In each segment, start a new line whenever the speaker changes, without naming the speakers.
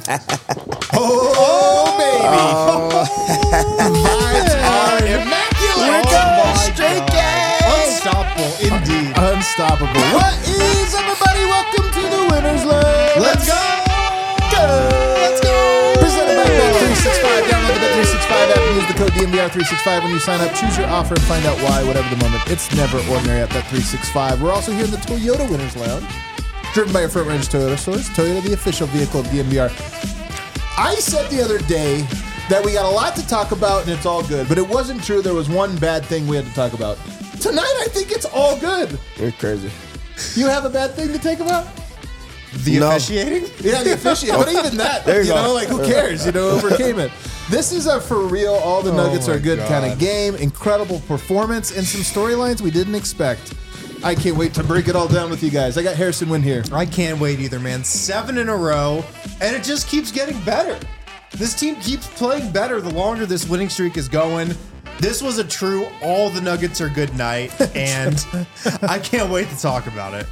Vibes are immaculate.
Straight game.
Unstoppable, indeed. Unstoppable. What is, everybody? Welcome to the Winner's Lab.
Let's go.
Let's go. Presented by Bet365. Download the Bet365 app and use the code DMVR365 when you sign up. Choose your offer and find out why, whatever the moment. It's never ordinary at Bet365. We're also here in the Toyota Winners Lounge, driven by your front range Toyota stores. Toyota, the official vehicle of DMVR. I said the other day that we got a lot to talk about and it's all good, but it wasn't true. There was one bad thing we had to talk about. Tonight, I think it's all good.
You're crazy.
You have a bad thing to take about?
The officiating?
Yeah, the officiating. But even that,
There you
you
go.
know, like who cares? You know, overcame it. This is a for real, all the Nuggets are good kind of game. Incredible performance and some storylines we didn't expect. I can't wait to break it all down with you guys. I got Harrison Wynn here.
I can't wait either, man. 7 in a row, and it just keeps getting better. This team keeps playing better the longer this winning streak is going. This was a true all the Nuggets are good night, and I can't wait to talk about it.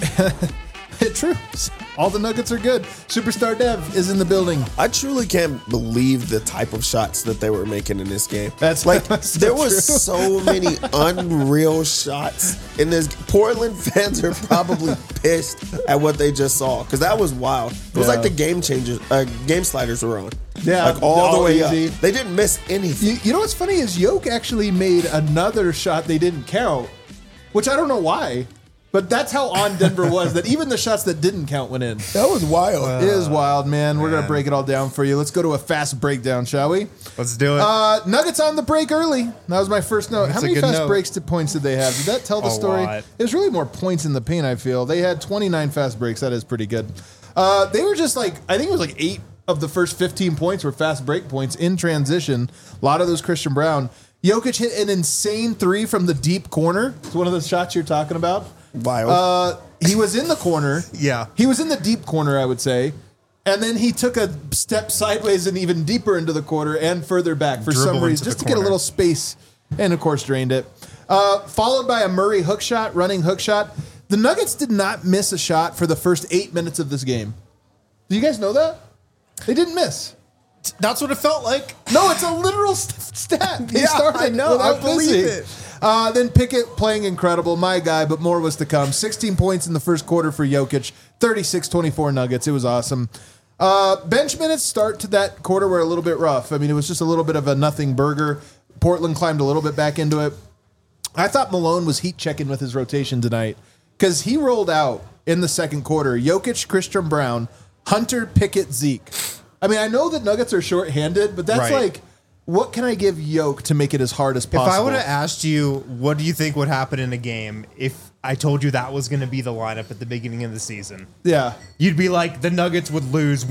True. All the Nuggets are good. Superstar Dev is in the building.
I truly can't believe the type of shots that they were making in this game.
That's
like
so
there was
true.
so many unreal shots in this. Portland fans are probably pissed at what they just saw because that was wild. It was like the game sliders were on.
Yeah,
like all the way
easy.
up. They didn't miss anything.
You know what's funny is Yoke actually made another shot they didn't count, which I don't know why. But that's how on Denver was, that even the shots that didn't count went in.
That was wild.
It is wild, man. We're going to break it all down for you. Let's go to a fast breakdown, shall we?
Let's do it.
Nuggets on the break early. That was my first note.
That's
How
a
many
good
fast
note.
breaks to points did they have? Did that tell the
A
story?
lot.
It was really more points in the paint, I feel. They had 29 fast breaks. That is pretty good. They were just like, I think it was like 8 of the first 15 points were fast break points in transition. A lot of those Christian Brown. Jokic hit an insane 3 from the deep corner. It's one of the shots you're talking about.
Wild.
He was in the corner.
Yeah.
He was in the deep corner, I would say. And then he took a step sideways and even deeper into the corner and further back for
Dribble
some
into
reason,
the
just to get a
corner.
little space. And, of course, drained it. Followed by a Murray hook shot, running hook shot. The Nuggets did not miss a shot for the first 8 minutes of this game. Do you guys know that? They didn't miss.
That's what it felt like.
No, it's a literal stat. They
Yeah,
started
I know. I
without
believe
missing.
it.
Then Pickett playing incredible, my guy, but more was to come. 16 points in the first quarter for Jokic, 36-24 Nuggets. It was awesome. Bench minutes start to that quarter were a little bit rough. I mean, it was just a little bit of a nothing burger. Portland climbed a little bit back into it. I thought Malone was heat checking with his rotation tonight because he rolled out in the second quarter. Jokic, Christian Brown, Hunter, Pickett, Zeke. I mean, I know that Nuggets are shorthanded, but that's
Right.
like, what can I give Yoke to make it as hard as possible?
If I would have asked you, what do you think would happen in a game if I told you that was going to be the lineup at the beginning of the season?
Yeah.
You'd be like, the Nuggets would lose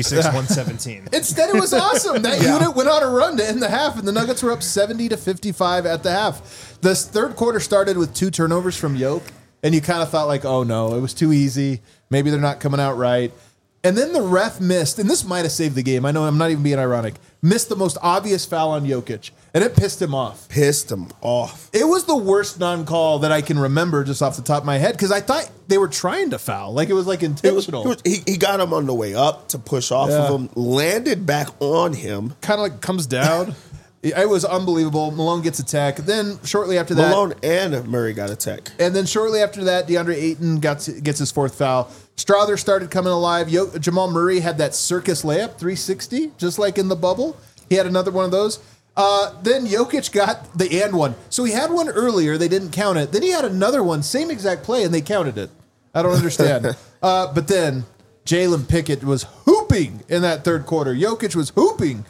146-117.
Instead, it was awesome. That unit went on a run to end the half, and the Nuggets were up 70-55 at the half. The third quarter started with 2 turnovers from Yoke, and you kind of thought like, oh no, it was too easy. Maybe they're not coming out right. And then the ref missed, and this might have saved the game. I know I'm not even being ironic. Missed the most obvious foul on Jokic, and it pissed him off.
Pissed him off.
It was the worst non-call that I can remember just off the top of my head because I thought they were trying to foul. Like it was like intentional.
He got him on the way up to push off of him, landed back on him.
Kind of like comes down. It was unbelievable. Malone gets a tech. Then shortly after that,
Malone and Murray got a tech.
and then shortly after that, DeAndre Ayton gets his 4th foul. Strother started coming alive. Jamal Murray had that circus layup, 360, just like in the bubble. He had another one of those. Then Jokic got the and one. So he had one earlier. They didn't count it. Then he had another one, same exact play, and they counted it. I don't understand. But then Jalen Pickett was hooping in that third quarter. Jokic was hooping.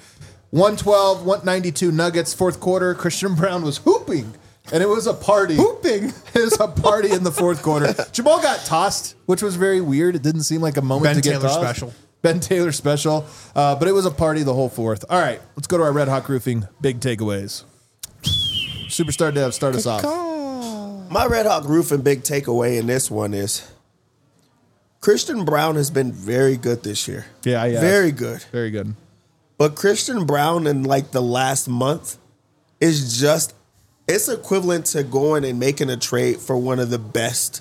112, 192 Nuggets, 4th quarter. Christian Brown was hooping. And it was a party.
Hooping.
It was a party in the 4th quarter. Jamal got tossed, which was very weird. It didn't seem like a moment
Ben
to get
Taylor
tossed.
special.
Ben Taylor special. But it was a party the whole 4th. All right, let's go to our Red Hawk Roofing big takeaways. Superstar Dev, start us off.
My Red Hawk Roofing big takeaway in this one is Christian Brown has been very good this year.
Yeah, yeah.
Very good.
Very good.
But Christian Brown in like the last month is just It's equivalent to going and making a trade for one of the best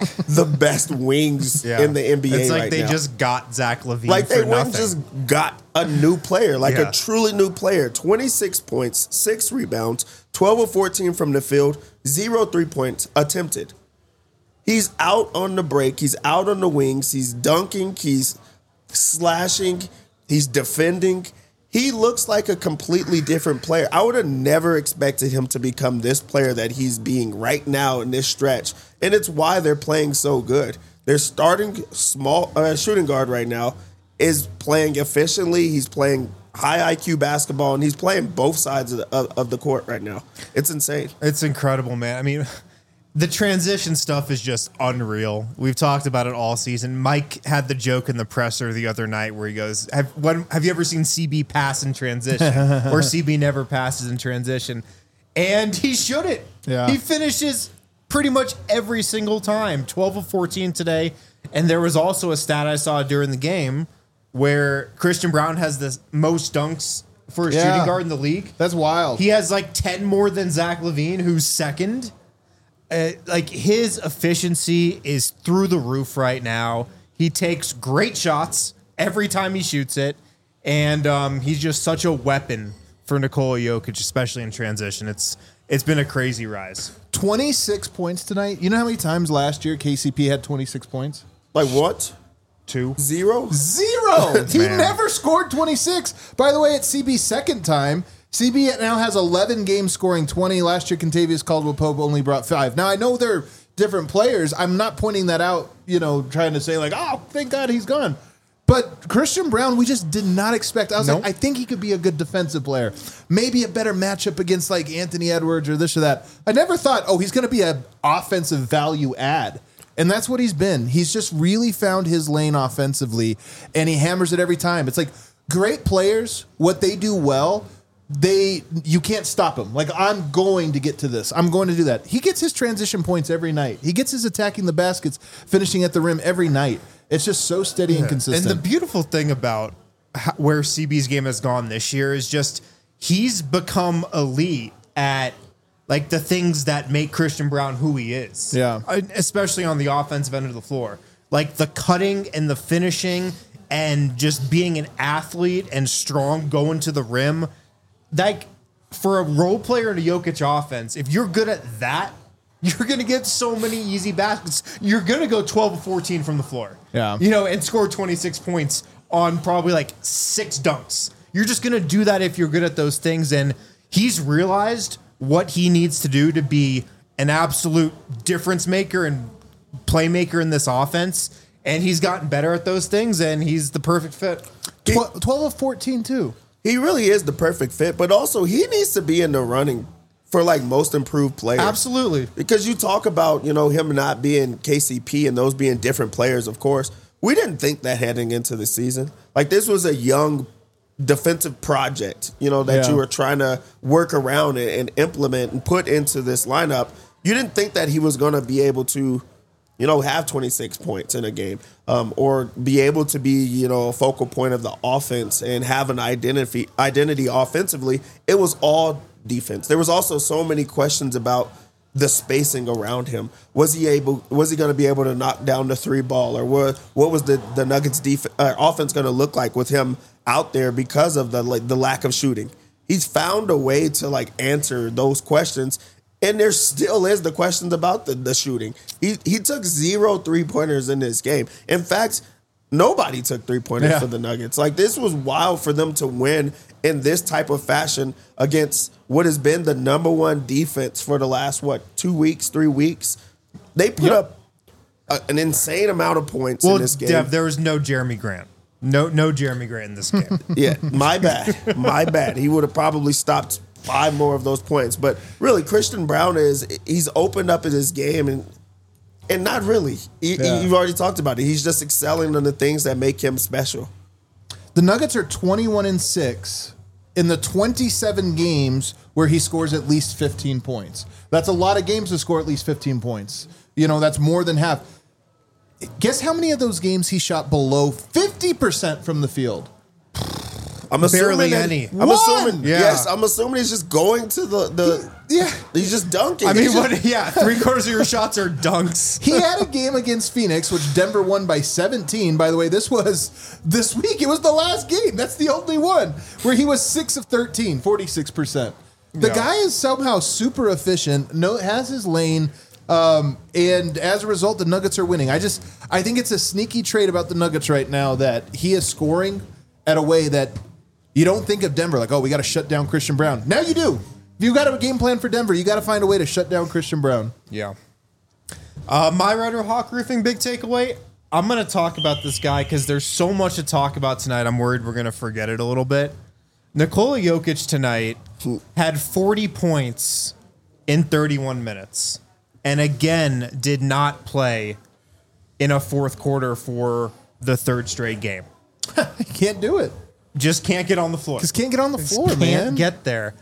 wings in the NBA
It's like
right
they
now.
just got Zach LaVine
Like they
for
went
nothing.
just got a new player, like
Yeah.
a truly new player. 26 points, 6 rebounds, 12 of 14 from the field, 0 3-points attempted. He's out on the break. He's out on the wings. He's dunking. He's slashing. He's defending. He looks like a completely different player. I would have never expected him to become this player that he's being right now in this stretch. And it's why they're playing so good. Their starting small shooting guard right now is playing efficiently. He's playing high IQ basketball, and he's playing both sides of the court right now. It's insane.
It's incredible, man. I mean, the transition stuff is just unreal. We've talked about it all season. Mike had the joke in the presser the other night where he goes, have you ever seen CB pass in transition? Or CB never passes in transition. And he shouldn't.
Yeah.
He finishes pretty much every single time. 12 of 14 today. And there was also a stat I saw during the game where Christian Brown has the most dunks for a shooting guard in the league.
That's wild.
He has like 10 more than Zach LaVine, who's second. Like his efficiency is through the roof right now. He takes great shots every time he shoots it, and he's just such a weapon for Nikola Jokic, especially in transition. It's been a crazy rise.
26 points tonight. You know how many times last year KCP had 26 points?
Like what?
2.
0?
Zero. He
Man.
never scored 26. By the way, it's CB's second time. CB now has 11 games scoring 20. Last year, Contavious Caldwell-Pope only brought 5. Now, I know they're different players. I'm not pointing that out, trying to say like, oh, thank God he's gone. But Christian Brown, we just did not expect. I was
Nope.
like, I think he could be a good defensive player. Maybe a better matchup against like Anthony Edwards or this or that. I never thought, he's going to be an offensive value add. And that's what he's been. He's just really found his lane offensively, and he hammers it every time. It's like great players, what they do well, you can't stop him. Like, I'm going to get to this. I'm going to do that. He gets his transition points every night. He gets his attacking the baskets, finishing at the rim every night. It's just so steady and consistent.
And the beautiful thing about where CB's game has gone this year is just he's become elite at like the things that make Christian Brown who he is.
Yeah.
Especially on the offensive end of the floor. Like the cutting and the finishing and just being an athlete and strong going to the rim. Like for a role player in a Jokic offense, if you're good at that, you're going to get so many easy baskets. You're going to go 12 of 14 from the floor.
Yeah.
And score 26 points on probably like 6 dunks. You're just going to do that if you're good at those things. And he's realized what he needs to do to be an absolute difference maker and playmaker in this offense. And he's gotten better at those things, and he's the perfect fit.
12 of 14, too.
He really is the perfect fit, but also he needs to be in the running for like most improved players.
Absolutely.
Because you talk about, him not being KCP and those being different players, of course. We didn't think that heading into the season. Like this was a young defensive project, that you were trying to work around and implement and put into this lineup. You didn't think that he was going to be able to, have 26 points in a game, or be able to be, a focal point of the offense and have an identity offensively. It was all defense. There was also so many questions about the spacing around him. Was he going to be able to knock down the 3 ball, or what was the Nuggets offense going to look like with him out there because of the lack of shooting? He's found a way to answer those questions. And there still is the questions about the shooting. He took 0 3-pointers in this game. In fact, nobody took 3-pointers for the Nuggets. This was wild for them to win in this type of fashion against what has been the number one defense for the last, 2 weeks, 3 weeks. They put up an insane amount of points in this game.
Dev, there was no Jeremy Grant. No Jeremy Grant in this game.
Yeah, my bad. My bad. He would have probably stopped 5 more of those points. But really, Christian Brown he's opened up in his game and not really. You've already talked about it. He's just excelling on the things that make him special.
The Nuggets are 21-6 in the 27 games where he scores at least 15 points. That's a lot of games to score at least 15 points. That's more than half. Guess how many of those games he shot below 50% from the field?
I'm assuming
barely
that,
any.
I'm assuming.
Yeah.
Yes, I'm assuming he's just going to the.
Yeah.
He's just dunking.
I mean,
He's just-
what? Yeah, 3/4 of your shots are dunks.
He had a game against Phoenix, which Denver won by 17. By the way, this was this week. It was the last game. That's the only one where he was 6 of 13, 46%. The guy is somehow super efficient, has his lane, and as a result, the Nuggets are winning. I think it's a sneaky trait about the Nuggets right now that he is scoring at a way that you don't think of Denver, like, oh, we got to shut down Christian Brown. Now you do. If you got a game plan for Denver, you got to find a way to shut down Christian Brown.
Yeah. My Red Hawk Roofing big takeaway, I'm going to talk about this guy because there's so much to talk about tonight. I'm worried we're going to forget it a little bit. Nikola Jokic tonight had 40 points in 31 minutes and again did not play in a fourth quarter for the third straight game.
He can't do it.
Just can't get on the floor.
Just can't get on the floor,
Can't
man.
get there.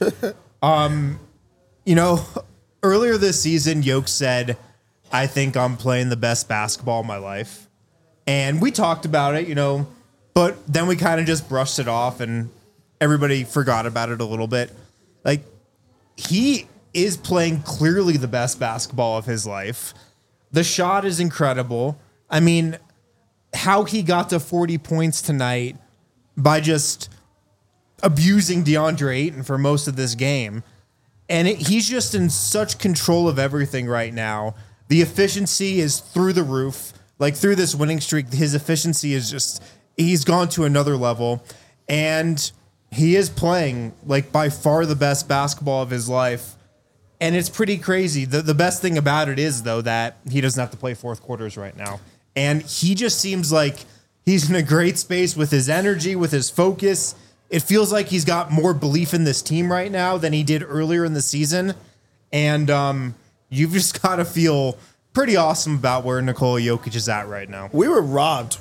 Earlier this season, Yoke said, I think I'm playing the best basketball of my life. And we talked about it, but then we kind of just brushed it off and everybody forgot about it a little bit. Like, he is playing clearly the best basketball of his life. The shot is incredible. I mean, how he got to 40 points tonight by just abusing DeAndre Ayton for most of this game. And he's just in such control of everything right now. The efficiency is through the roof. Like, through this winning streak, his efficiency is just, he's gone to another level. And he is playing, like, by far the best basketball of his life. And it's pretty crazy. The best thing about it is, though, that he doesn't have to play fourth quarters right now. And he just seems like he's in a great space with his energy, with his focus. It feels like he's got more belief in this team right now than he did earlier in the season. And you've just got to feel pretty awesome about where Nikola Jokic is at right now.
We were robbed.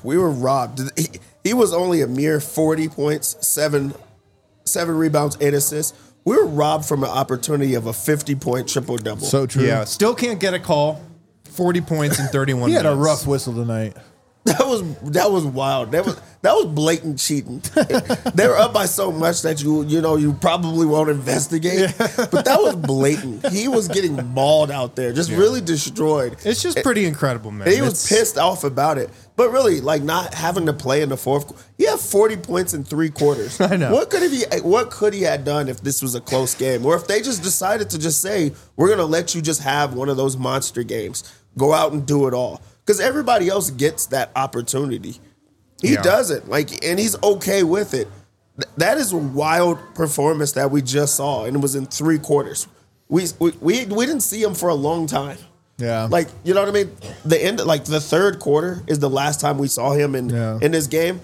He was only a mere 40 points, seven rebounds, 8 assists. We were robbed from an opportunity of a 50-point triple-double.
So true.
Yeah, still can't get a call. 40 points in 31
He
minutes.
had a rough whistle tonight.
That was wild. That was blatant cheating. They were up by so much that you probably won't investigate. But that was blatant. He was getting mauled out there, just really destroyed.
It's just pretty incredible, man.
And he was pissed off about it. But really, like, not having to play in the fourth. He had 40 points in 3 quarters.
I know.
What could he have done if this was a close game, or if they just decided to just say, we're gonna let you just have one of those monster games, go out and do it all. Because everybody else gets that opportunity. He doesn't. And he's okay with it. That is a wild performance that we just saw, and it was in 3 quarters. We didn't see him for a long time.
Yeah.
Like, you know what I mean? The end, like the third quarter is the last time we saw him in this game.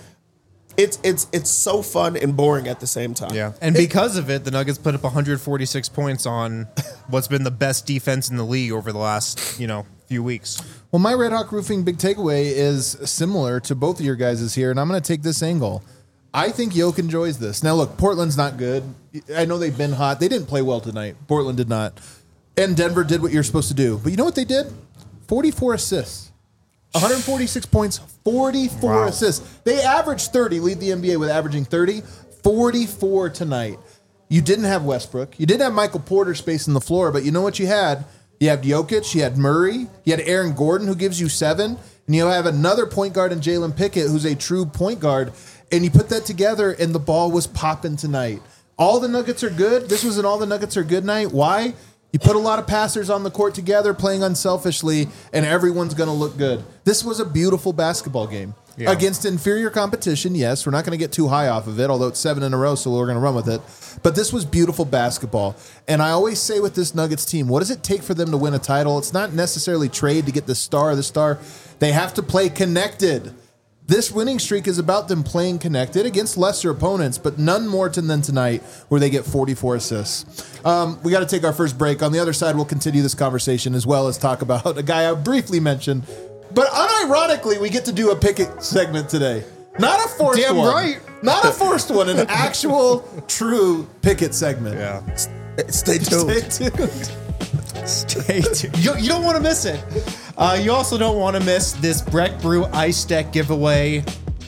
It's so fun and boring at the same time.
Yeah. And because of it, the Nuggets put up 146 points on what's been the best defense in the league over the last, few weeks.
Well, my Red Hawk Roofing big takeaway is similar to both of your guys' here, and I'm going to take this angle. I think Yoke enjoys this. Now, look, Portland's not good. I know they've been hot. They didn't play well tonight. Portland did not. And Denver did what you're supposed to do. But you know what they did? 44 assists. 146 points, 44 assists. They averaged 30, lead the NBA with averaging 30, 44 tonight. You didn't have Westbrook. You didn't have Michael Porter spacing the floor, but you know what you had? You had Jokic, you had Murray, you had Aaron Gordon, who gives you 7, and you have another point guard in Jalen Pickett, who's a true point guard, and you put that together, and the ball was popping tonight. All the Nuggets are good. This was an all the Nuggets are good night. Why? You put a lot of passers on the court together, playing unselfishly, and everyone's going to look good. This was a beautiful basketball game. Yeah. Against inferior competition, yes. We're not going to get too high off of it, although it's 7 in a row, so we're going to run with it. But this was beautiful basketball. And I always say with this Nuggets team, what does it take for them to win a title? It's not necessarily trade to get the star. They have to play connected. This winning streak is about them playing connected against lesser opponents, but none more than tonight where they get 44 assists. We got to take our first break. On the other side, we'll continue this conversation as well as talk about a guy I briefly mentioned. But unironically, we get to do a Pickett segment today. Not a forced one.
Damn right.
Not a forced one, an actual, true Pickett segment.
Yeah.
Stay tuned.
Stay tuned.
Stay tuned. You don't want to miss it. You also don't want to miss this Breck Brew Ice Deck giveaway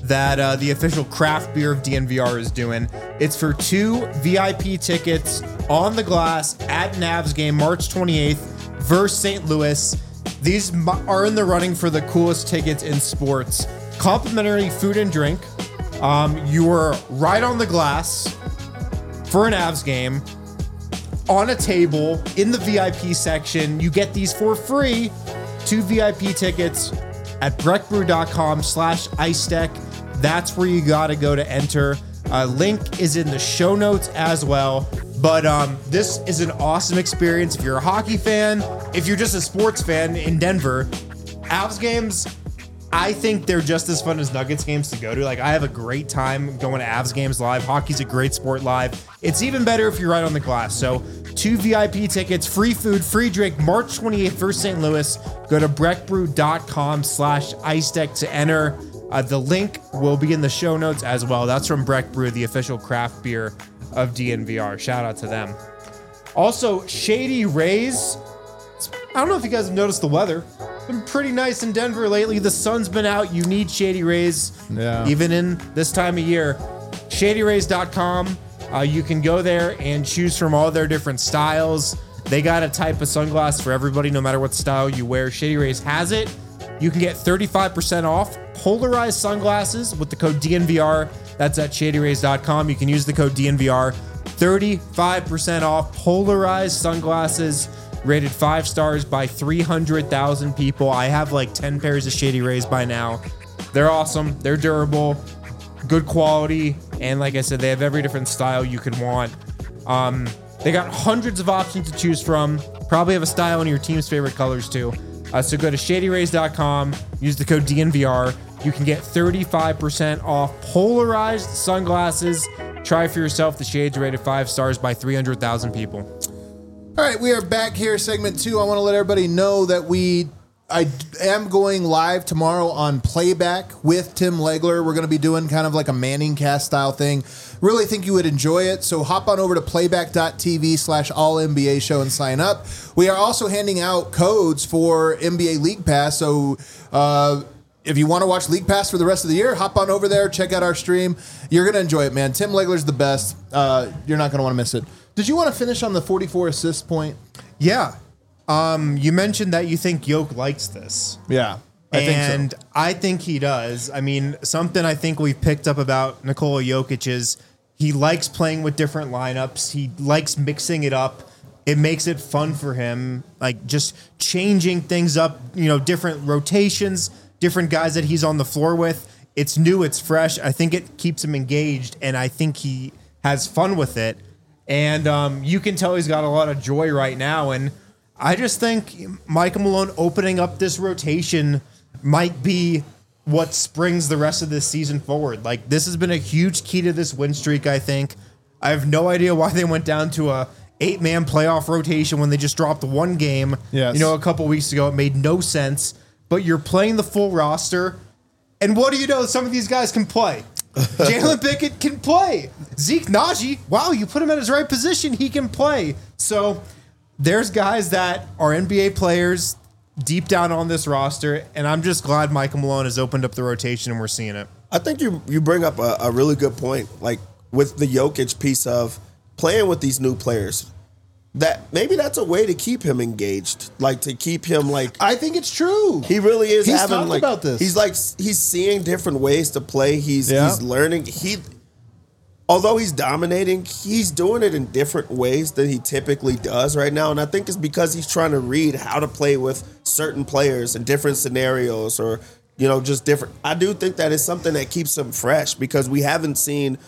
that the official craft beer of DNVR is doing. It's for 2 VIP tickets on the glass at Navs game March 28th versus St. Louis. These are in the running for the coolest tickets in sports. Complimentary food and drink. You are right on the glass for an Avs game on a table in the VIP section. You get these for free. 2 VIP tickets at breckbrew.com/ice-deck. That's where you got to go to enter. Link is in the show notes as well. But this is an awesome experience if you're a hockey fan, if you're just a sports fan in Denver. Avs games, I think they're just as fun as Nuggets games to go to. Like, I have a great time going to Avs games live. Hockey's a great sport live. It's even better if you're right on the glass. So 2 VIP tickets, free food, free drink, March 28th versus St. Louis. Go to breckbrew.com/ice-deck to enter. The link will be in the show notes as well. That's from Breck Brew, the official craft beer of DNVR. Shout out to them. Also, Shady Rays. I don't know if you guys have noticed the weather. It's been pretty nice in Denver lately. The sun's been out. You need Shady Rays, even in this time of year. ShadyRays.com. You can go there and choose from all their different styles. They got a type of sunglass for everybody, no matter what style you wear. Shady Rays has it. You can get 35% off polarized sunglasses with the code DNVR. That's at ShadyRays.com. You can use the code DNVR. 35% off polarized sunglasses rated 5 stars by 300,000 people. I have like 10 pairs of Shady Rays by now. They're awesome. They're durable, good quality, and like I said, they have every different style you could want. They got hundreds of options to choose from. Probably have a style in your team's favorite colors too. So go to ShadyRays.com, use the code DNVR. You can get 35% off polarized sunglasses. Try for yourself. The shades rated 5 stars by 300,000 people.
All right, we are back here, segment 2. I want to let everybody know that I am going live tomorrow on Playback with Tim Legler. We're going to be doing kind of like a Manning cast style thing. Really think you would enjoy it. So hop on over to playback.tv/all-NBA show and sign up. We are also handing out codes for NBA League Pass. So if you want to watch League Pass for the rest of the year, hop on over there, check out our stream. You're going to enjoy it, man. Tim Legler's the best. You're not going to want to miss it. Did you want to finish on the 44 assist point?
Yeah. You mentioned that you think Yoke likes this.
Yeah, I think so.
I think he does. I mean, something I think we've picked up about Nikola Jokic is he likes playing with different lineups. He likes mixing it up. It makes it fun for him, like just changing things up, different rotations, different guys that he's on the floor with. It's new, it's fresh. I think it keeps him engaged, and I think he has fun with it. And you can tell he's got a lot of joy right now, and I just think Michael Malone opening up this rotation might be what springs the rest of this season forward. Like, this has been a huge key to this win streak, I think. I have no idea why they went down to a 8-man playoff rotation when they just dropped 1 game.
Yes.
A couple weeks ago. It made no sense. But you're playing the full roster, and what do you know? Some of these guys can play. Jalen Pickett can play. Zeke Naji, wow, you put him at his right position, he can play. So there's guys that are NBA players deep down on this roster, and I'm just glad Michael Malone has opened up the rotation and we're seeing it.
I think you bring up a really good point, like with the Jokic piece of playing with these new players. That maybe that's a way to keep him engaged, like to keep him like.
I think it's true.
He really is.
He's
having
talked
like
about this.
He's seeing different ways to play. He's learning. Although he's dominating, he's doing it in different ways than he typically does right now. And I think it's because he's trying to read how to play with certain players in different scenarios or, just different. I do think that is something that keeps him fresh because we haven't seen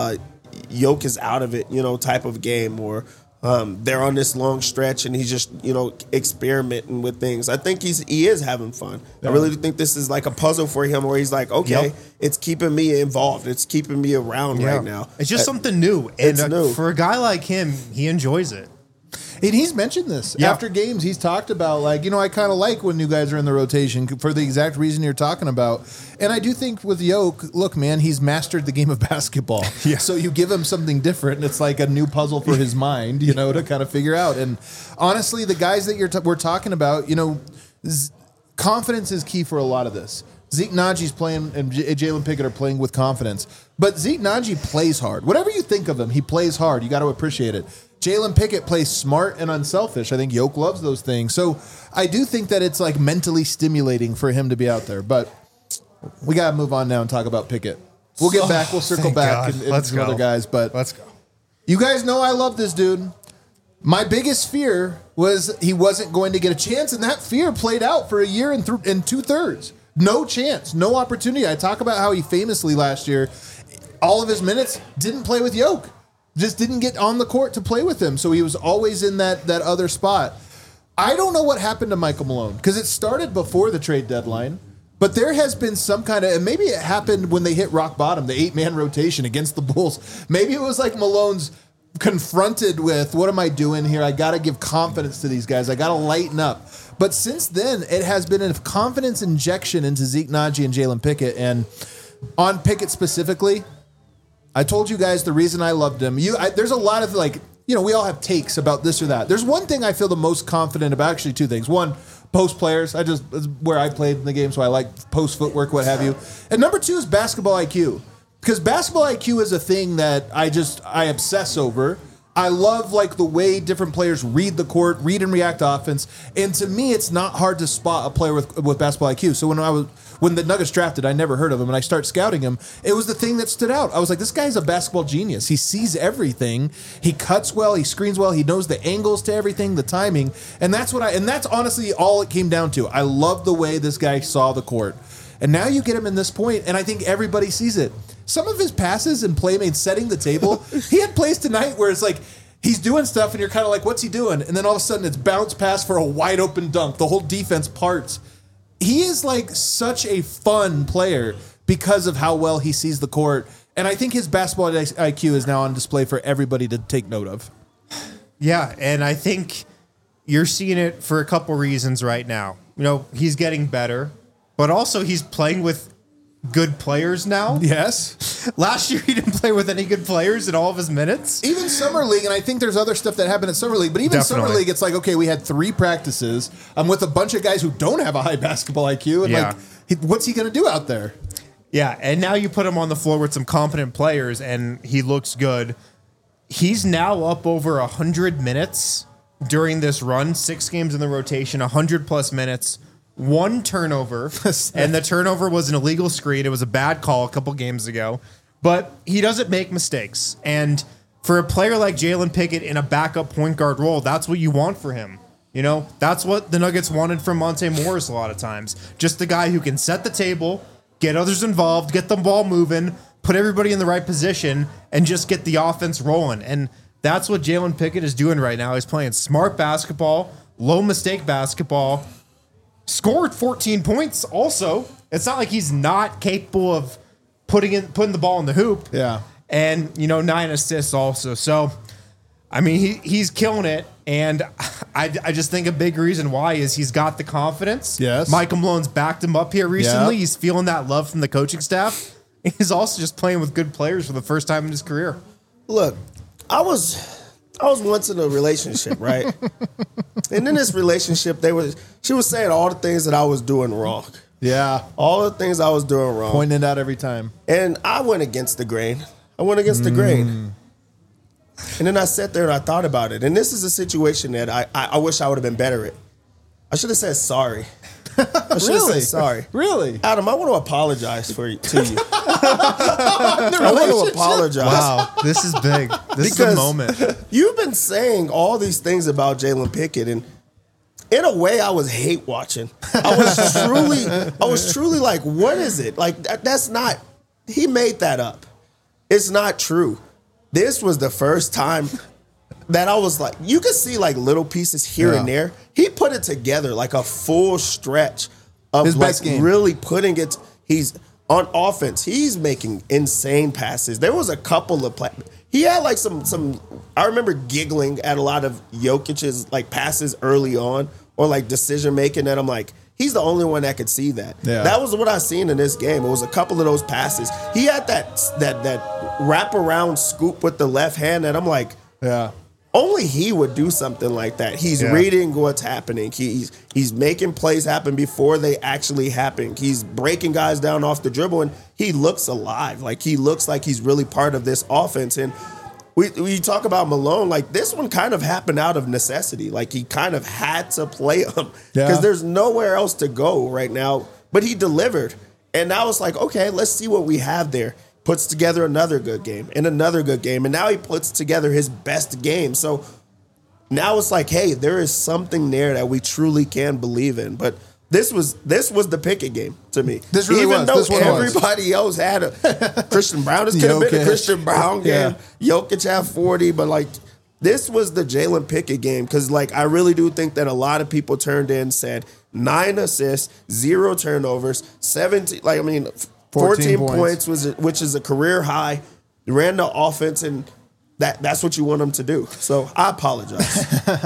Jokic is out of it, type of game or they're on this long stretch and he's just, experimenting with things. I think he is having fun. Yeah. I really think this is like a puzzle for him where he's like, okay, it's keeping me involved. It's keeping me around right now.
It's just something new. And it's new. For a guy like him, he enjoys it.
And he's mentioned this after games. He's talked about I kind of like when new guys are in the rotation for the exact reason you're talking about. And I do think with Yoke, look, man, he's mastered the game of basketball. Yeah. So you give him something different, and it's like a new puzzle for his mind, to kind of figure out. And honestly, the guys that we're talking about, confidence is key for a lot of this. Zeke Najee's playing and Jalen Pickett are playing with confidence. But Zeke Najee plays hard. Whatever you think of him, he plays hard. You got to appreciate it. Jalen Pickett plays smart and unselfish. I think Yoke loves those things. So I do think that it's like mentally stimulating for him to be out there. But we got to move on now and talk about Pickett. We'll get back. We'll circle back and some other guys. But
let's go.
You guys know I love this dude. My biggest fear was he wasn't going to get a chance, and that fear played out for a year and 2/3. No chance, no opportunity. I talk about how he famously last year, all of his minutes didn't play with Yoke. Just didn't get on the court to play with him. So he was always in that other spot. I don't know what happened to Michael Malone because it started before the trade deadline. But there has been some kind of, and maybe it happened when they hit rock bottom, the 8-man rotation against the Bulls. Maybe it was like Malone's confronted with, what am I doing here? I got to give confidence to these guys. I got to lighten up. But since then, it has been a confidence injection into Zeke Naji and Jalen Pickett. And on Pickett specifically, I told you guys the reason I loved him. There's a lot of we all have takes about this or that. There's one thing I feel the most confident about, actually two things. One, post players. It's where I played in the game, so I like post footwork, what have you. And number two is basketball IQ. Because basketball IQ is a thing that I obsess over. I love the way different players read the court, read and react to offense. And to me, it's not hard to spot a player with basketball IQ. So when the Nuggets drafted, I never heard of him, and I start scouting him, it was the thing that stood out. I was like, this guy's a basketball genius. He sees everything. He cuts well. He screens well. He knows the angles to everything, the timing. And that's honestly all it came down to. I love the way this guy saw the court. And now you get him in this point, and I think everybody sees it. Some of his passes and playmates setting the table, he had plays tonight where it's like he's doing stuff and you're kind of like, what's he doing? And then all of a sudden it's bounce pass for a wide open dunk. The whole defense parts. He is such a fun player because of how well he sees the court. And I think his basketball IQ is now on display for everybody to take note of.
Yeah, and I think you're seeing it for a couple reasons right now. He's getting better, but also he's playing with good players now.
Yes.
Last year he didn't play with any good players in all of his minutes.
Even Summer League, and I think there's other stuff that happened at Summer League, but even Summer League, it's like, okay, we had 3 practices. I'm with a bunch of guys who don't have a high basketball IQ, and what's he going to do out there?
Yeah, and now you put him on the floor with some competent players, and he looks good. He's now up over 100 minutes during this run, 6 games in the rotation, 100-plus minutes. 1 turnover, and the turnover was an illegal screen. It was a bad call a couple games ago, but he doesn't make mistakes. And for a player like Jalen Pickett in a backup point guard role, that's what you want for him. That's what the Nuggets wanted from Monte Morris a lot of times. Just the guy who can set the table, get others involved, get the ball moving, put everybody in the right position, and just get the offense rolling. And that's what Jalen Pickett is doing right now. He's playing smart basketball, low mistake basketball, scored 14 points also. It's not like he's not capable of putting the ball in the hoop.
Yeah.
And, 9 assists also. So, I mean, he's killing it. And I just think a big reason why is he's got the confidence.
Yes.
Michael Malone's backed him up here recently.
Yep.
He's feeling that love from the coaching staff. He's also just playing with good players for the first time in his career.
Look, I was once in a relationship, right? And in this relationship, she was saying all the things that I was doing wrong.
Yeah.
All the things I was doing wrong.
Pointing it out every time.
And I went against the grain. The grain. And then I sat there and I thought about it. And this is a situation that I wish I would have been better at. I should have said sorry. I should have said sorry.
Really?
Adam, I want to apologize to you. I want to apologize.
Wow, this is big. This is the moment.
You've been saying all these things about Jalen Pickett, and in a way, I was hate watching. I was truly like, what is it? Like that's not. He made that up. It's not true. This was the first time that I was like, you could see little pieces here and there. He put it together like a full stretch of
his best game.
Really putting it. He's on offense. He's making insane passes. There was a couple of he had some. I remember giggling at a lot of Jokic's passes early on or decision making that I'm like, he's the only one that could see that.
Yeah.
That was what I seen in this game. It was a couple of those passes. He had that wraparound scoop with the left hand that I'm like,
yeah.
only he would do something like that. He's reading what's happening. He's making plays happen before they actually happen. He's breaking guys down off the dribble, and he looks alive. Like, he looks like he's really part of this offense. And we talk about Malone, like, this one kind of happened out of necessity. Like, he kind of had to play him because there's nowhere else to go right now. But he delivered. And now it's like, okay, let's see what we have there. Puts together another good game and another good game. And now he puts together his best game. So now it's like, hey, there is something there that we truly can believe in. But this was the Pickett game to me.
This really
Even
was.
though everybody else had a Christian Brown, this could have been a Christian Brown game. Jokic had 40, but like, this was the Jalen Pickett game. Because like, I really do think that a lot of people turned in and said 9 assists, 0 turnovers, 17, 14 points which is a career high. He ran the offense, and that's what you want him to do. So I apologize.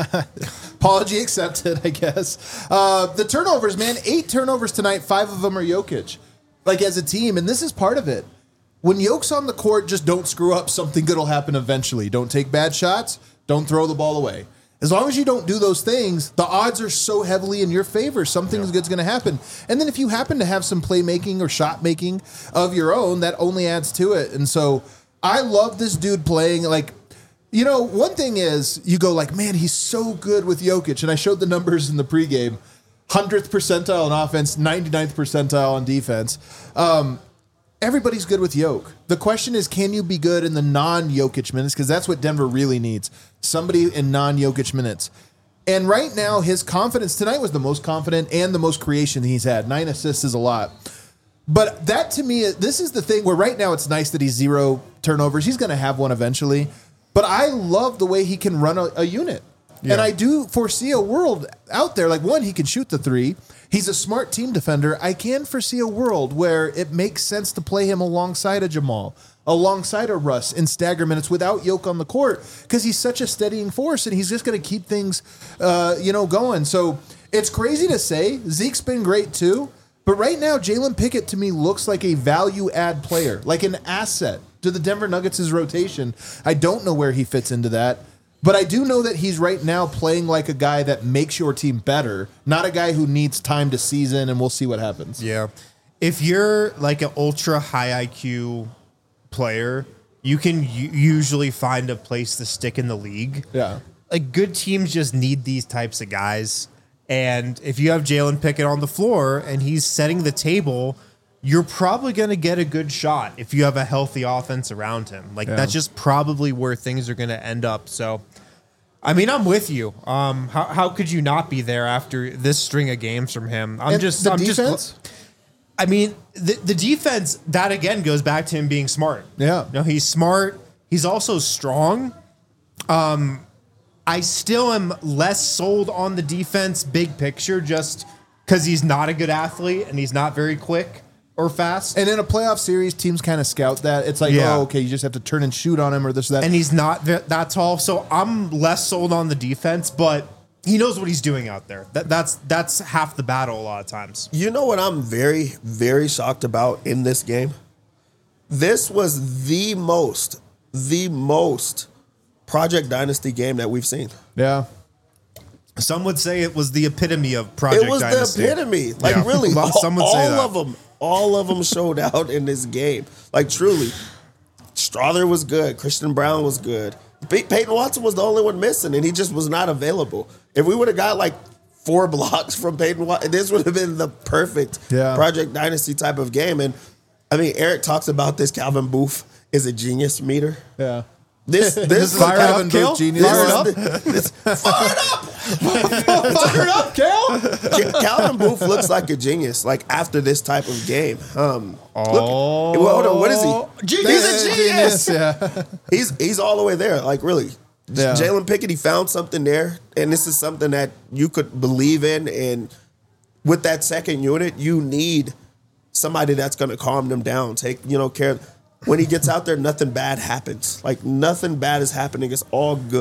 Apology accepted, I guess. The turnovers, man, 8 turnovers tonight. 5 of them are Jokic. Like, as a team, and this is part of it. When Jokic's on the court, just don't screw up. Something good will happen eventually. Don't take bad shots. Don't throw the ball away. As long as you don't do those things, the odds are so heavily in your favor. Something good's going to happen. And then if you happen to have some playmaking or shot making of your own, that only adds to it. And so I love this dude playing. Like, you know, one thing is you go like, man, he's so good with Jokic. And I showed the numbers in the pregame. 100th percentile on offense, 99th percentile on defense. Everybody's good with Jokic. The question is, can you be good in the non-Jokic minutes? Because that's what Denver really needs. Somebody in non-Jokic minutes. And right now, his confidence tonight was the most confident and the most creation he's had. 9 assists is a lot. But that, to me, this is the thing where right now it's nice that he's 0 turnovers. He's going to have one eventually. But I love the way he can run a unit. Yeah. And I do foresee a world out there. Like, one, he can shoot the 3. He's a smart team defender. I can foresee a world where it makes sense to play him alongside a Jamal, alongside a Russ in stagger minutes without Jokic on the court, because he's such a steadying force and he's just going to keep things, going. So it's crazy to say. Zeke's been great too. But right now, Jalen Pickett to me looks like a value add player, like an asset to the Denver Nuggets' rotation. I don't know where he fits into that. But I do know that he's right now playing like a guy that makes your team better, not a guy who needs time to season, and we'll see what happens.
Yeah. If you're like an ultra high IQ player, you can usually find a place to stick in the league.
Yeah.
Like, good teams just need these types of guys. And if you have Jalen Pickett on the floor and he's setting the table, you're probably going to get a good shot if you have a healthy offense around him. Like, that's just probably where things are going to end up. So, I mean, I'm with you. How could you not be there after this string of games from him? The defense? The defense, that again goes back to him being smart.
Yeah.
No, he's smart. He's also strong. I still am less sold on the defense big picture just because he's not a good athlete and he's not very quick or fast.
And in a playoff series, teams kind of scout that. It's like, oh, okay, you just have to turn and shoot on him or this or that.
And he's not that tall. So I'm less sold on the defense, but he knows what he's doing out there. That's half the battle a lot of times.
You know what I'm very, very shocked about in this game? This was the most Project Dynasty game that we've seen.
Yeah.
Some would say it was the epitome of Project Dynasty.
It was the epitome. Like, really, some would say that. All of them showed out in this game. Like, truly. Strother was good. Christian Brown was good. Peyton Watson was the only one missing, and he just was not available. If we would have got, like, 4 blocks from Peyton Watson, this would have been the perfect Project Dynasty type of game. And, I mean, Eric talks about this. Calvin Booth is a genius meter.
Yeah.
This is
fire up, Kale. Genius.
Fire it up.
Fire up, Kale.
Calvin Booth looks like a genius. Like, after this type of game. Hold on. What is he?
He's
a genius. Yeah. He's all the way there. Like, really. Yeah. Jalen Pickett, he found something there, and this is something that you could believe in. And with that second unit, you need somebody that's going to calm them down. Take care of. When he gets out there, nothing bad happens. Like, nothing bad is happening. It's all good.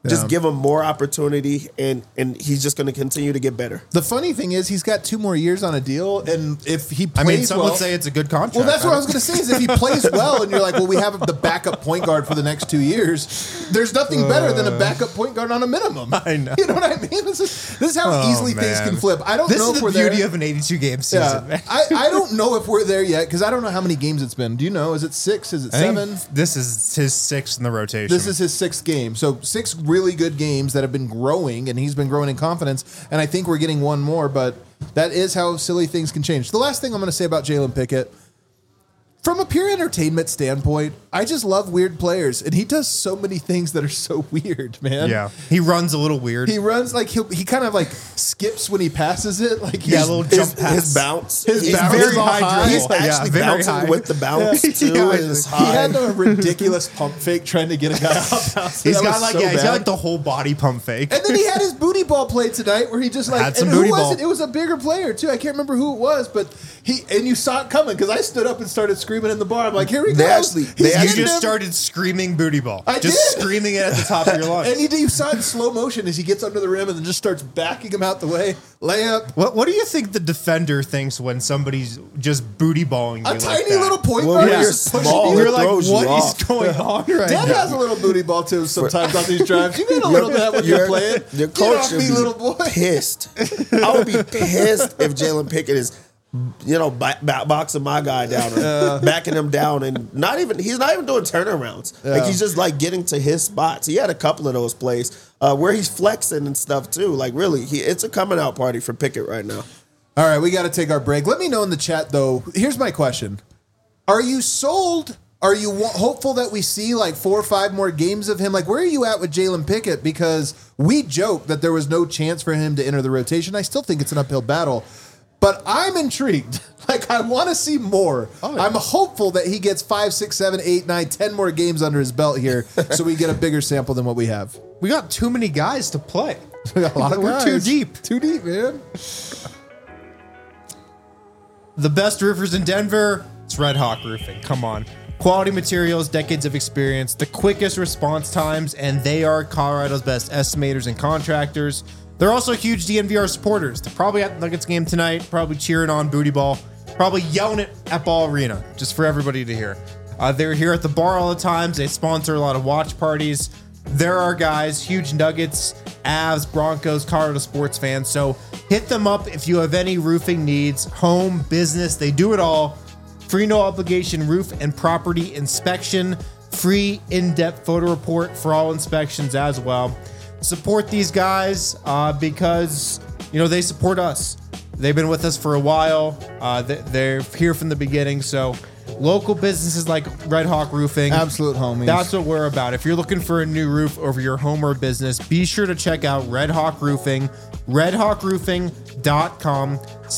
Just give him more opportunity, and he's just going to continue to get better.
The funny thing is he's got 2 more years on a deal, and if he plays
some would say it's a good contract.
Well, that's what I was going to say is if he plays well and you're like, well, we have the backup point guard for the next 2 years, there's nothing better than a backup point guard on a minimum.
I know.
You know what I mean? This is how easily things can flip. I don't know if we're there.
This is the beauty of an 82-game season.
Yeah. I don't know if we're there yet because I don't know how many games it's been. Do you know? Is it 6? Is it 7?
This is his 6th in the rotation.
This is his 6th game. So 6 really good games that have been growing, and he's been growing in confidence. And I think we're getting one more, but that is how silly things can change. The last thing I'm going to say about Jalen Pickett, from a pure entertainment standpoint, I just love weird players, and he does so many things that are so weird, man.
Yeah, he runs a little weird.
He runs like he kind of like skips when he passes it, like
a little jump pass.
His bounce,
his bounce
very
is all
high.
He's actually bouncing with the bounce too.
He had a ridiculous pump fake trying to get a guy off.
He's got like the whole body pump fake.
And then he had his booty ball play tonight, where he just like
had some
and
booty
who was
ball.
it? It was a bigger player too. I can't remember who it was, but you saw it coming because I stood up and started screaming in the bar. I'm like, here we go.
You
just started screaming booty ball.
I
just
did.
Screaming it at the top of your lungs.
And you saw it in slow motion as he gets under the rim and then just starts backing him out the way. Layup.
What do you think the defender thinks when somebody's just booty balling you
A
like
tiny
that?
little point
Well,
guard.
when you're
just pushing
small,
you.
You're
it
like,
throws you
what
off.
is going on right
Dad
now?
has a little booty ball too sometimes on these drives. You get a little bit when you're playing.
Your
Get
coach
off
should
me,
be
little boy.
pissed. I would be pissed if Jalen Pickett is, boxing my guy down, or backing him down, and he's not even doing turnarounds. Like he's just like getting to his spots. He had a couple of those plays where he's flexing and stuff too. Like really, it's a coming out party for Pickett right now.
All right, we got to take our break. Let me know in the chat though. Here's my question: are you sold? Are you hopeful that we see like 4 or 5 more games of him? Like, where are you at with Jalen Pickett? Because we joked that there was no chance for him to enter the rotation. I still think it's an uphill battle. But I'm intrigued. Like, I want to see more. Oh, yeah. I'm hopeful that he gets 5, 6, 7, 8, 9, 10 more games under his belt here so we get a bigger sample than what we have.
We got too many guys to play.
We got a lot of guys.
We're too deep.
Too deep, man.
The best roofers in Denver, it's Red Hawk Roofing. Come on. Quality materials, decades of experience, the quickest response times, and they are Colorado's best estimators and contractors. They're also huge DNVR supporters. They're probably at the Nuggets game tonight, probably cheering on Booty Ball, probably yelling it at Ball Arena, just for everybody to hear. They're here at the bar all the time. They sponsor a lot of watch parties. There are guys, huge Nuggets, Avs, Broncos, Colorado sports fans. So hit them up if you have any roofing needs, home, business, they do it all. Free no obligation roof and property inspection, free in-depth photo report for all inspections as well. Support these guys because they support us. They've been with us for a while. They're here from the beginning. So local businesses like Red Hawk Roofing,
absolute homies.
That's what we're about. If you're looking for a new roof over your home or business, be sure to check out Red Hawk Roofing, redhawkroofing.com,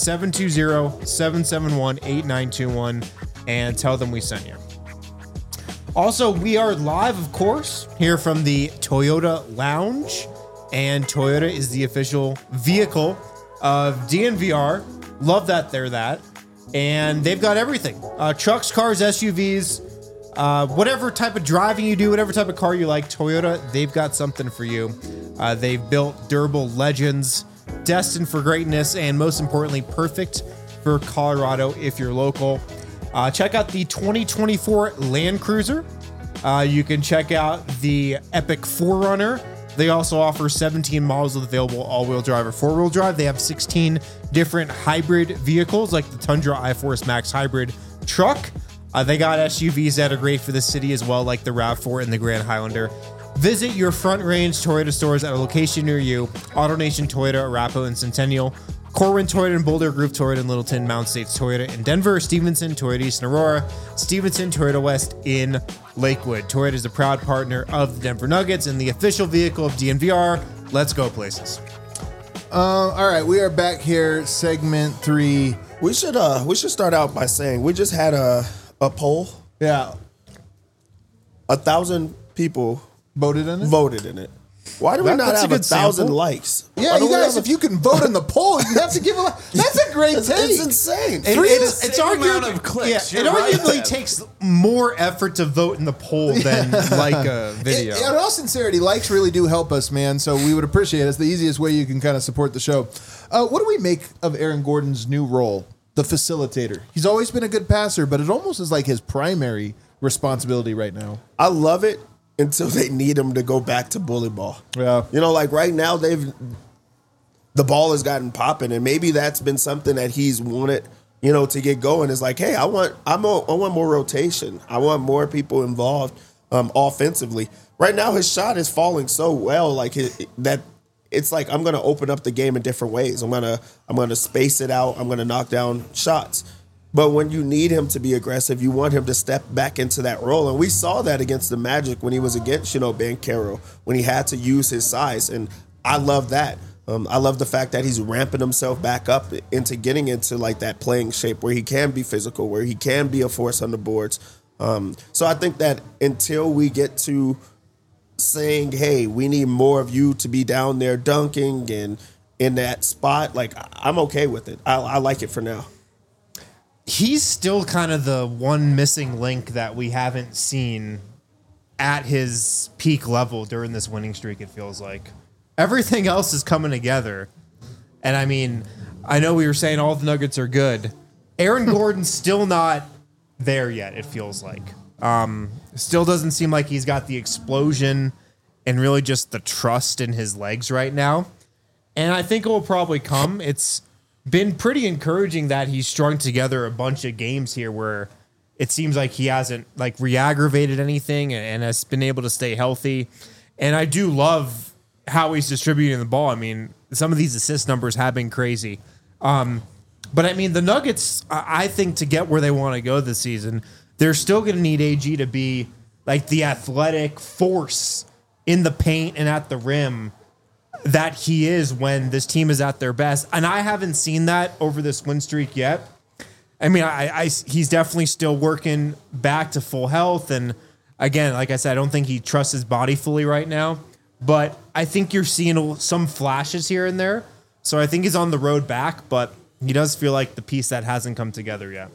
720-771-8921, and tell them we sent you. Also, we are live, of course, here from the Toyota Lounge, and Toyota is the official vehicle of DNVR. Love that they're that. And they've got everything. Trucks, cars, SUVs, whatever type of driving you do, whatever type of car you like, Toyota, they've got something for you. They've built durable legends, destined for greatness, and most importantly, perfect for Colorado if you're local. Check out the 2024 Land Cruiser. You can check out the Epic 4Runner. They also offer 17 models of available all-wheel drive or four-wheel drive. They have 16 different hybrid vehicles like the Tundra iForce Max Hybrid truck. They got SUVs that are great for the city as well, like the RAV4 and the Grand Highlander. Visit your Front Range Toyota stores at a location near you. AutoNation Toyota, Arapahoe, and Centennial. Corwin Toyota in Boulder, Grove Toyota in Littleton, Mountain States Toyota in Denver, Stevenson Toyota East in Aurora, Stevenson Toyota West in Lakewood. Toyota is a proud partner of the Denver Nuggets and the official vehicle of DNVR. Let's go places.
All right, we are back here, segment 3.
We should start out by saying we just had a poll.
Yeah.
1,000 people
voted in it.
Why do we not
That's a
have
good
1,000
sample.
likes?
Yeah,
Why
you
don't we
guys,
have
if you can vote in the poll, you have to give a. That's a great
It's
take.
insane.
It's
Same amount
arguably
of clicks.
Yeah, it
You're right.
arguably takes more effort to vote in the poll than like a video.
In all sincerity, likes really do help us, man. So we would appreciate it. It's the easiest way you can kind of support the show. What do we make of Aaron Gordon's new role, the facilitator? He's always been a good passer, but it almost is like his primary responsibility right now.
I love it until they need him to go back to bully ball.
Yeah.
You know, like right now the ball has gotten popping, and maybe that's been something that he's wanted, you know, to get going. Is like, hey, I want more rotation. I want more people involved offensively. Right now, his shot is falling so well, like that. It's like I'm going to open up the game in different ways. I'm gonna space it out. I'm going to knock down shots. But when you need him to be aggressive, you want him to step back into that role. And we saw that against the Magic when he was against, you know, Banchero, when he had to use his size. And I love that. I love the fact that he's ramping himself back up into getting into like that playing shape where he can be physical, where he can be a force on the boards. So I think that until we get to saying, hey, we need more of you to be down there dunking and in that spot, like I'm okay with it. I like it for now.
He's still kind of the one missing link that we haven't seen at his peak level during this winning streak, it feels like. Everything else is coming together. And I mean, I know we were saying all the Nuggets are good. Aaron Gordon's still not there yet, it feels like. Still doesn't seem like he's got the explosion and really just the trust in his legs right now. And I think it will probably come. It's been pretty encouraging that he's strung together a bunch of games here where it seems like he hasn't like re-aggravated anything and has been able to stay healthy. And I do love how he's distributing the ball. I mean, some of these assist numbers have been crazy. But I mean, the Nuggets, I think to get where they want to go this season, they're still going to need AG to be like the athletic force in the paint and at the rim that he is when this team is at their best. And I haven't seen that over this win streak yet. I mean, he's definitely still working back to full health. And again, like I said, I don't think he trusts his body fully right now. But I think you're seeing some flashes here and there. So I think he's on the road back, but he does feel like the piece that hasn't come together yet.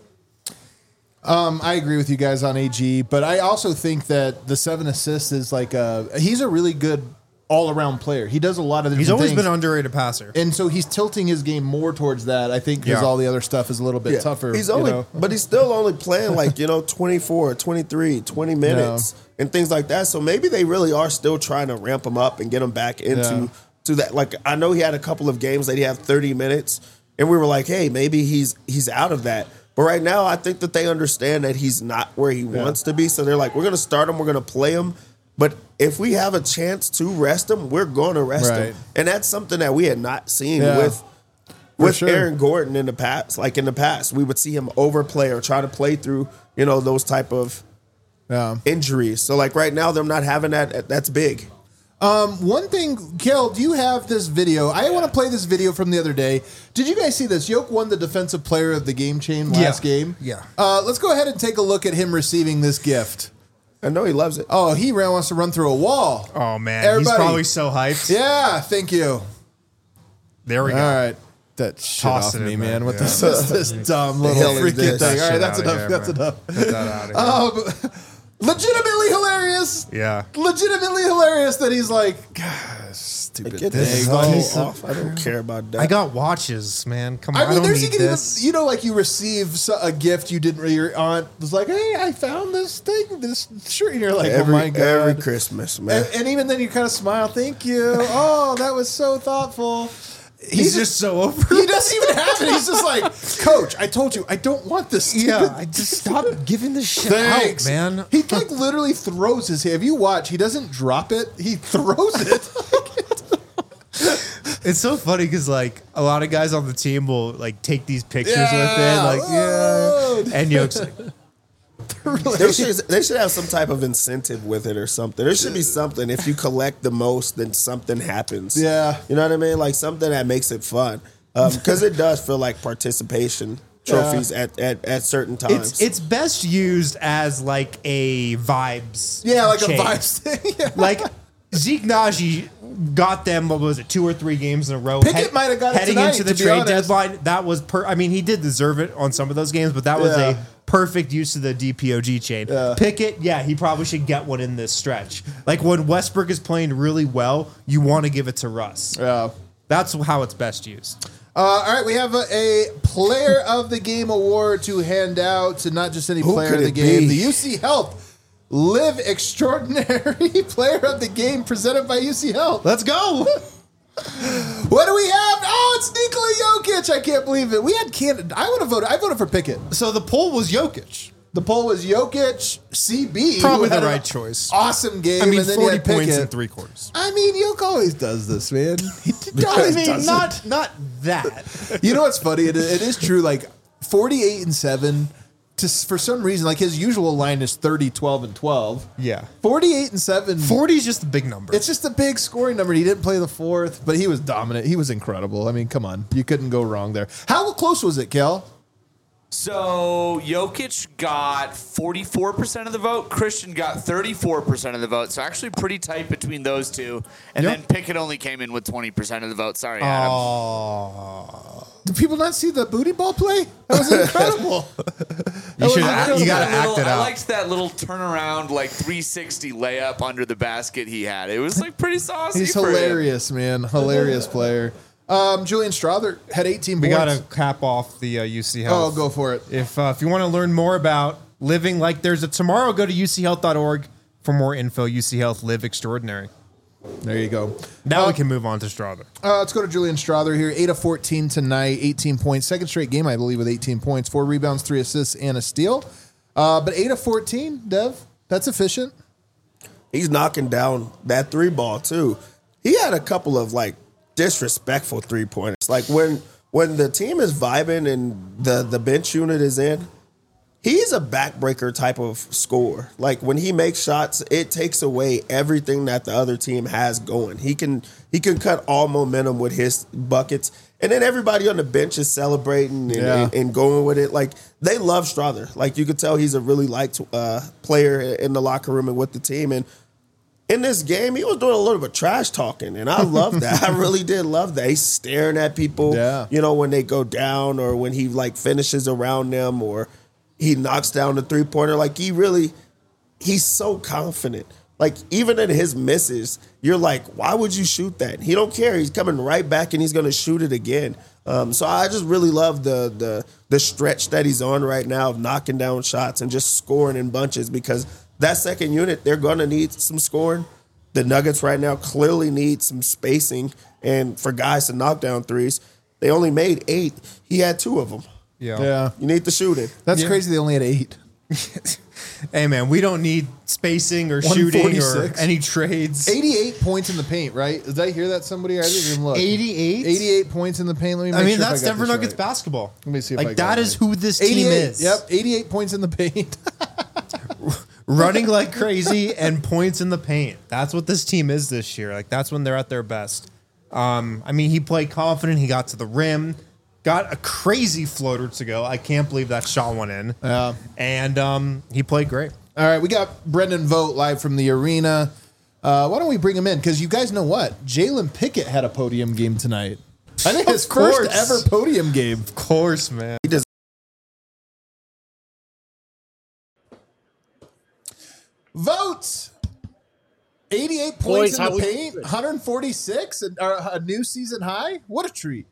I agree with you guys on AG, but I also think that the 7 assists is like he's a really good all-around player. He does a lot of different
He's always
things.
been an underrated passer.
And so he's tilting his game more towards that, I think, because
Yeah.
all the other stuff is a little bit tougher.
He's only, but he's still only playing like, 24, 23, 20 minutes and things like that. So maybe they really are still trying to ramp him up and get him back into to that. Like, I know he had a couple of games that he had 30 minutes and we were like, hey, maybe he's out of that. But right now, I think that they understand that he's not where he wants to be. So they're like, we're going to start him. We're going to play him. But if we have a chance to rest him, we're going to rest him. And that's something that we had not seen with Aaron Gordon in the past. Like in the past, we would see him overplay or try to play through, those type of injuries. So like right now, they're not having that. That's big.
One thing, Kel, do you have this video? I want to play this video from the other day. Did you guys see this? Yoke won the defensive player of the game chain last game.
Yeah.
Let's go ahead and take a look at him receiving this gift.
I know he loves it.
Oh, he wants to run through a wall.
Oh, man.
Everybody.
He's probably so hyped.
Yeah, thank you.
There we go.
All right. That shit
Toss
off
it
me,
in
man.
there.
What this dumb little
hell is
freaking
this?
thing. All right,
Shit
that's
outta
enough.
here,
That's
man.
enough.
Get that out of here.
Legitimately hilarious.
Yeah.
Legitimately hilarious that he's like, gosh, stupid
Get
thing.
this hell off. I don't care about that.
I got watches, man. Come on.
I mean,
don't
there's
need
even,
this.
like you receive a gift you didn't. Your aunt was like, "Hey, I found this thing, this shirt," and you're like, "Oh my god!"
Every Christmas, man.
And even then, you kind of smile. Thank you. Oh, that was so thoughtful.
He's just so over.
He doesn't even have it. He's just like, Coach, I told you, I don't want this.
Yeah, I just stop giving this shit
Thanks,
out, man.
He like literally throws his hand. If you watch, he doesn't drop it. He throws it.
It's so funny because like a lot of guys on the team will like take these pictures with it, like and Yoke's like,
They should have some type of incentive with it or something. There should be something. If you collect the most, then something happens.
Yeah.
You know what I mean? Like something that makes it fun. Because it does feel like participation trophies at certain times.
it's best used as like a vibes.
Yeah, like
chain.
a vibes thing. Yeah.
Like Zeke Naji got them, what was it, 2 or 3 games in a row.
Pickett might have got it
heading
tonight,
into the
to be
trade
honest.
deadline. That was I mean, he did deserve it on some of those games, but that was
Yeah.
a perfect use of the DPOG chain.
Yeah.
Pickett, he probably should get one in this stretch. Like when Westbrook is playing really well, you want to give it to Russ.
Yeah.
That's how it's best used.
All right, we have a player of the game award to hand out to not just any
Who
player
could
of the
it
game,
be?
the UC Health Live Extraordinary Player of the Game presented by UC Health.
Let's go.
What do we have? Oh, it's Nikola Jokic. I can't believe it. We had Canada. I voted for Pickett.
So the poll was Jokic.
The poll was Jokic, CB.
Probably
who had
the
an
right choice.
Awesome game.
I mean,
and then you
40
had
points
Pickett.
in 3 quarters.
I mean, Jokic always does this, man. He
I
always
mean,
does it.
not that.
You know what's funny? It is true. Like 48-7. For some reason, like his usual line is 30, 12, and 12.
Yeah.
48-7.
40 is just a big number.
It's just a big scoring number. He didn't play the fourth, but he was dominant. He was incredible. I mean, come on. You couldn't go wrong there. How close was it, Kel?
So Jokic got 44% of the vote. Christian got 34% of the vote. So actually pretty tight between those two. And
Yep.
then Pickett only came in with 20% of the vote. Sorry, Adam.
Oh.
Did people not see the booty ball play? That was incredible.
You got to act it
I
out.
liked that little turnaround, like 360 layup under the basket he had. It was like pretty saucy.
He's
for him.
hilarious, man. Hilarious player. Julian Strother had 18
We
points.
got to cap off the UC Health.
Oh, go for it.
If you want to learn more about living like there's a tomorrow, go to uchealth.org for more info. UC Health, live extraordinary.
There you go.
Now we can move on to Strother.
Let's go to Julian Strother here. 8 of 14 tonight, 18 points. Second straight game, I believe, with 18 points. 4 rebounds, 3 assists, and a steal. But 8 of 14, Dev, that's efficient.
He's knocking down that 3 ball too. He had a couple of like disrespectful 3-pointers. Like when the team is vibing and the bench unit is in, he's a backbreaker type of scorer. Like when he makes shots, it takes away everything that the other team has going. He can cut all momentum with his buckets. And then everybody on the bench is celebrating and going with it. Like they love Strother. Like you could tell he's a really liked player in the locker room and with the team. And in this game, he was doing a little bit of trash talking, and I love that. I really did love that. He's staring at people, when they go down or when he like finishes around them or he knocks down the 3-pointer. Like he's so confident. Like even in his misses, you're like, why would you shoot that? He don't care. He's coming right back and he's going to shoot it again. So I just really love the stretch that he's on right now of knocking down shots and just scoring in bunches because that second unit, they're going to need some scoring. The Nuggets right now clearly need some spacing and for guys to knock down threes. They only made 8. He had 2 of them.
Yeah.
You need the shooting.
That's crazy. They only had 8.
Hey, man, we don't need spacing or shooting or
146.
any trades.
88 points in the paint, right? Did I hear that somebody? I didn't even look.
88?
88 points in the paint. Let me make
I mean,
sure if
that's
I got
Denver
this
Nuggets
right.
basketball.
Let me see if I
Like,
got
that
it
is
right.
who this team
88.
is.
Yep, 88 points in the paint.
Running like crazy and points in the paint. That's what this team is this year. Like, that's when they're at their best. I mean, he played confident. He got to the rim. Got a crazy floater to go. I can't believe that shot went in.
Yeah.
And he played great.
All right, we got Brendan Vogt live from the arena. Why don't we bring him in? Because you guys know what? Jalen Pickett had a podium game tonight. I think his first ever podium game.
Of course, man.
He does.
Vote 88 points
Boys,
in
how
the
we
paint,
doing?
146, and a new season high. What a treat.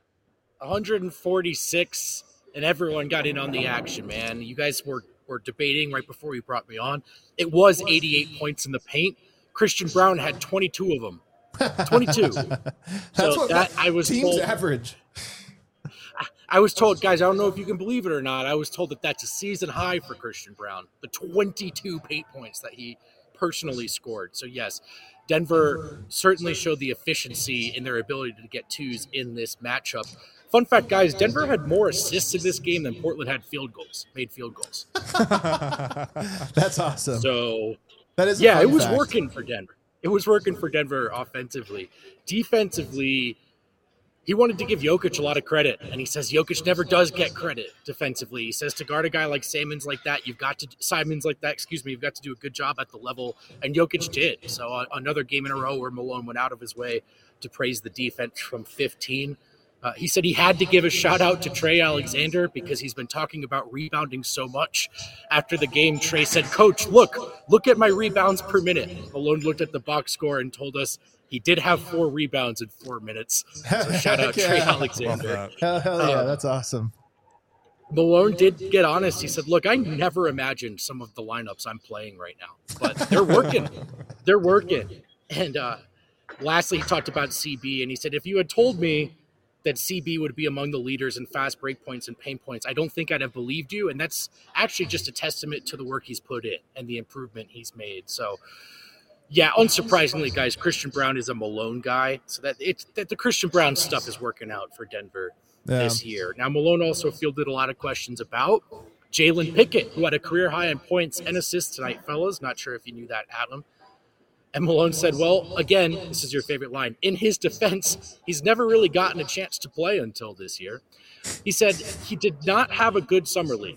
146, and everyone got in on the action, man. You guys were debating right before you brought me on. It was 88 points in the paint. Christian Brown had 22 of them. 22.
That's what
I was
team's
told.
average.
I was told, guys, I don't know if you can believe it or not. I was told that that's a season high for Christian Brown, the 22 paint points that he personally scored. So, yes, Denver certainly showed the efficiency in their ability to get twos in this matchup. Fun fact, guys, Denver had more assists in this game than Portland had made field goals.
That's awesome.
So,
That is a
yeah,
fun
it was
fact.
working for Denver. It was working for Denver offensively. Defensively, he wanted to give Jokic a lot of credit, and he says Jokic never does get credit defensively. He says to guard a guy like Simons like that, you've got to do a good job at the level, and Jokic did. So another game in a row where Malone went out of his way to praise the defense from 15. He said he had to give a shout out to Trey Alexander because he's been talking about rebounding so much. After the game, Trey said, "Coach, look at my rebounds per minute." Malone looked at the box score and told us he did have 4 rebounds in 4 minutes. So shout out Trey Alexander.
Hell yeah, that's awesome.
Malone did get honest. He said, "Look, I never imagined some of the lineups I'm playing right now, but they're working. They're working." And lastly, he talked about CB, and he said, "If you had told me that CB would be among the leaders in fast break points and paint points, I don't think I'd have believed you." And that's actually just a testament to the work he's put in and the improvement he's made. So, yeah, unsurprisingly, guys, Christian Braun is a Malone guy. So that the Christian Braun stuff is working out for Denver this year. Now, Malone also fielded a lot of questions about Jalen Pickett, who had a career high in points and assists tonight, fellas. Not sure if you knew that, Adam. And Malone said, well, again, this is your favorite line. In his defense, he's never really gotten a chance to play until this year. He said he did not have a good summer league.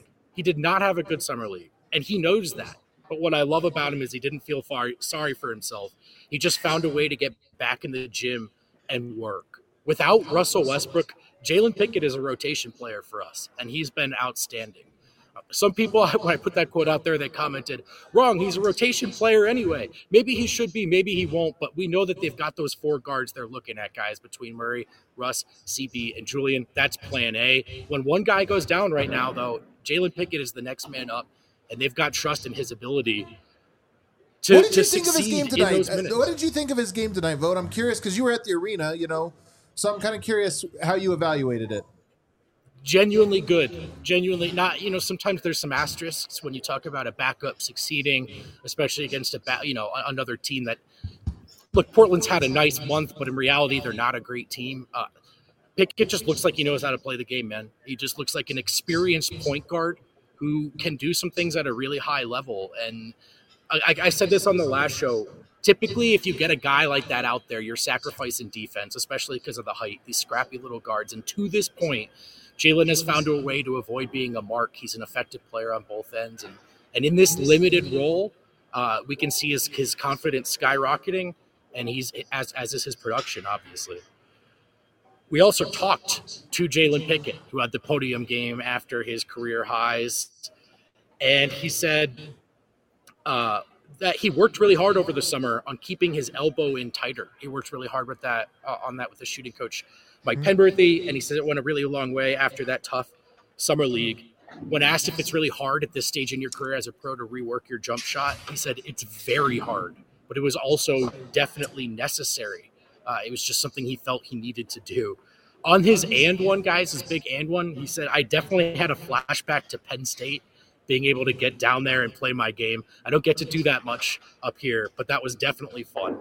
And he knows that. But what I love about him is he didn't feel sorry for himself. He just found a way to get back in the gym and work. Without Russell Westbrook, Jalen Pickett is a rotation player for us, and he's been outstanding. Some people, when I put that quote out there, they commented, wrong, he's a rotation player anyway. Maybe he should be, maybe he won't, but we know that they've got those 4 guards they're looking at, guys, between Murray, Russ, CB, and Julian. That's plan A. When one guy goes down right now, though, Jalen Pickett is the next man up, and they've got trust in his ability to succeed in those minutes.
What did you think of his game tonight, Vogt? I'm curious because you were at the arena, so I'm kind of curious how you evaluated it.
Genuinely good. Genuinely not, sometimes there's some asterisks when you talk about a backup succeeding, especially against another team that, look, Portland's had a nice month, but in reality, they're not a great team. Pickett just looks like he knows how to play the game, man. He just looks like an experienced point guard who can do some things at a really high level. And I said this on the last show. Typically, if you get a guy like that out there, you're sacrificing defense, especially because of the height, these scrappy little guards. And to this point, Jalen has found a way to avoid being a mark. He's an effective player on both ends. And in this limited role, we can see his confidence skyrocketing, and he's as is his production, obviously. We also talked to Jalen Pickett, who had the podium game after his career highs. And he said that he worked really hard over the summer on keeping his elbow in tighter. He worked really hard with that with the shooting coach, Mike Penberthy, and he said it went a really long way after that tough summer league. When asked if it's really hard at this stage in your career as a pro to rework your jump shot, he said it's very hard, but it was also definitely necessary. It was just something he felt he needed to do. On his and one, guys, his big and one, he said, I definitely had a flashback to Penn State, being able to get down there and play my game. I don't get to do that much up here, but that was definitely fun.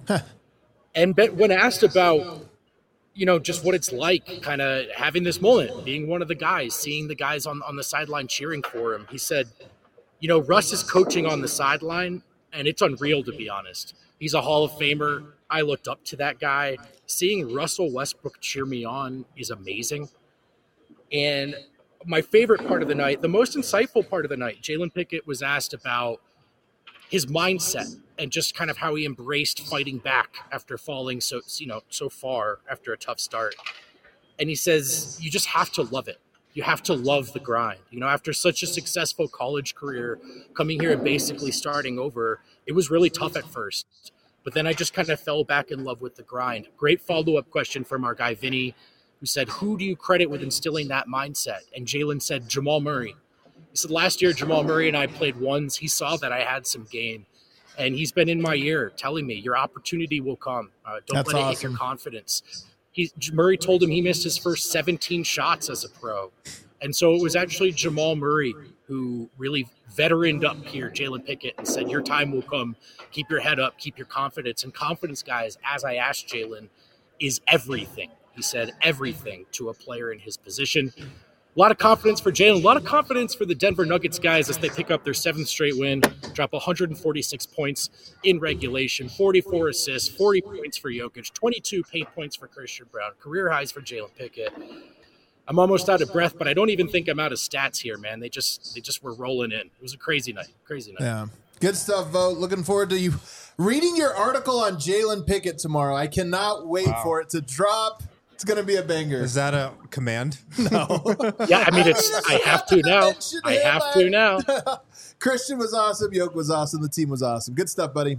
And when asked about, just what it's like kind of having this moment, being one of the guys, seeing the guys on the sideline cheering for him, he said, Russ is coaching on the sideline, and it's unreal, to be honest. He's a Hall of Famer. I looked up to that guy. Seeing Russell Westbrook cheer me on is amazing. And my favorite part of the night, the most insightful part of the night, Jalen Pickett was asked about his mindset and just kind of how he embraced fighting back after falling so far after a tough start. And he says, you just have to love it. You have to love the grind. After such a successful college career, coming here and basically starting over, it was really tough at first. But then I just kind of fell back in love with the grind. Great follow-up question from our guy, Vinny, who said, who do you credit with instilling that mindset? And Jalen said, Jamal Murray. He said, last year, Jamal Murray and I played ones. He saw that I had some game. And he's been in my ear telling me, your opportunity will come. Don't let it hit your confidence. Murray told him he missed his first 17 shots as a pro. And so it was actually Jamal Murray who really veteraned up here, Jalen Pickett, and said, your time will come. Keep your head up. Keep your confidence. And confidence, guys, as I asked Jalen, is everything. He said everything to a player in his position. A lot of confidence for Jalen. A lot of confidence for the Denver Nuggets guys as they pick up their 7th straight win, drop 146 points in regulation, 44 assists, 40 points for Jokic, 22 paint points for Christian Brown, career highs for Jalen Pickett. I'm almost out of breath, but I don't even think I'm out of stats here, man. They just were rolling in. It was a crazy night.
Yeah. Good stuff, Vogt. Looking forward to you reading your article on Jalen Pickett tomorrow. I cannot wait for it to drop. It's going to be a banger.
Is that a command?
No.
Yeah, I mean, I have to now. I have to now.
Christian was awesome. Yoke was awesome. The team was awesome. Good stuff, buddy.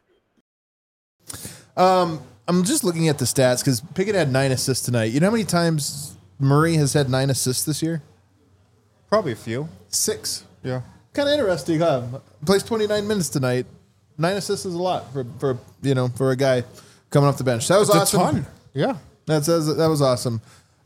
I'm just looking at the stats because Pickett had 9 assists tonight. You know how many times Murray has had 9 assists this year?
Probably a few.
6.
Yeah.
Kind of interesting, huh? Plays 29 minutes tonight. 9 assists is a lot for a guy coming off the bench. That was awesome.
A ton. Yeah.
That was awesome.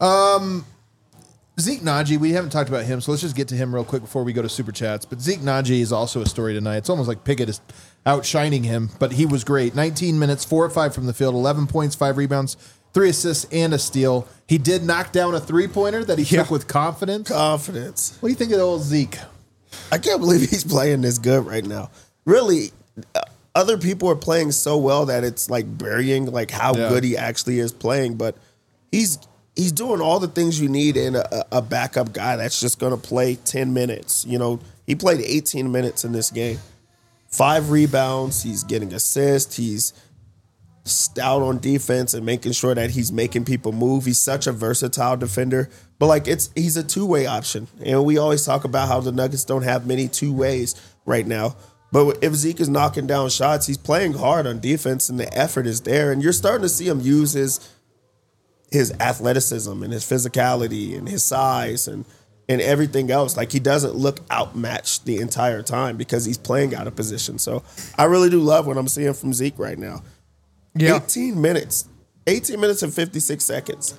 Zeke Naji, we haven't talked about him, so let's just get to him real quick before we go to Super Chats. But Zeke Naji is also a story tonight. It's almost like Pickett is outshining him, but he was great. 19 minutes, 4 of 5 from the field, 11 points, 5 rebounds, 3 assists, and a steal. He did knock down a three-pointer that he took with confidence. What do you think of the old Zeke?
I can't believe he's playing this good right now. Really, other people are playing so well that it's like burying like how good he actually is playing. But he's doing all the things you need in a backup guy that's just going to play 10 minutes. You know, he played 18 minutes in this game. 5 rebounds. He's getting assists. He's stout on defense and making sure that he's making people move. He's such a versatile defender. But like he's a two-way option. And we always talk about how the Nuggets don't have many two ways right now. But if Zeke is knocking down shots, he's playing hard on defense and the effort is there. And you're starting to see him use his athleticism and his physicality and his size and everything else. Like, he doesn't look outmatched the entire time because he's playing out of position. So I really do love what I'm seeing from Zeke right now. Yeah. 18 minutes and 56 seconds.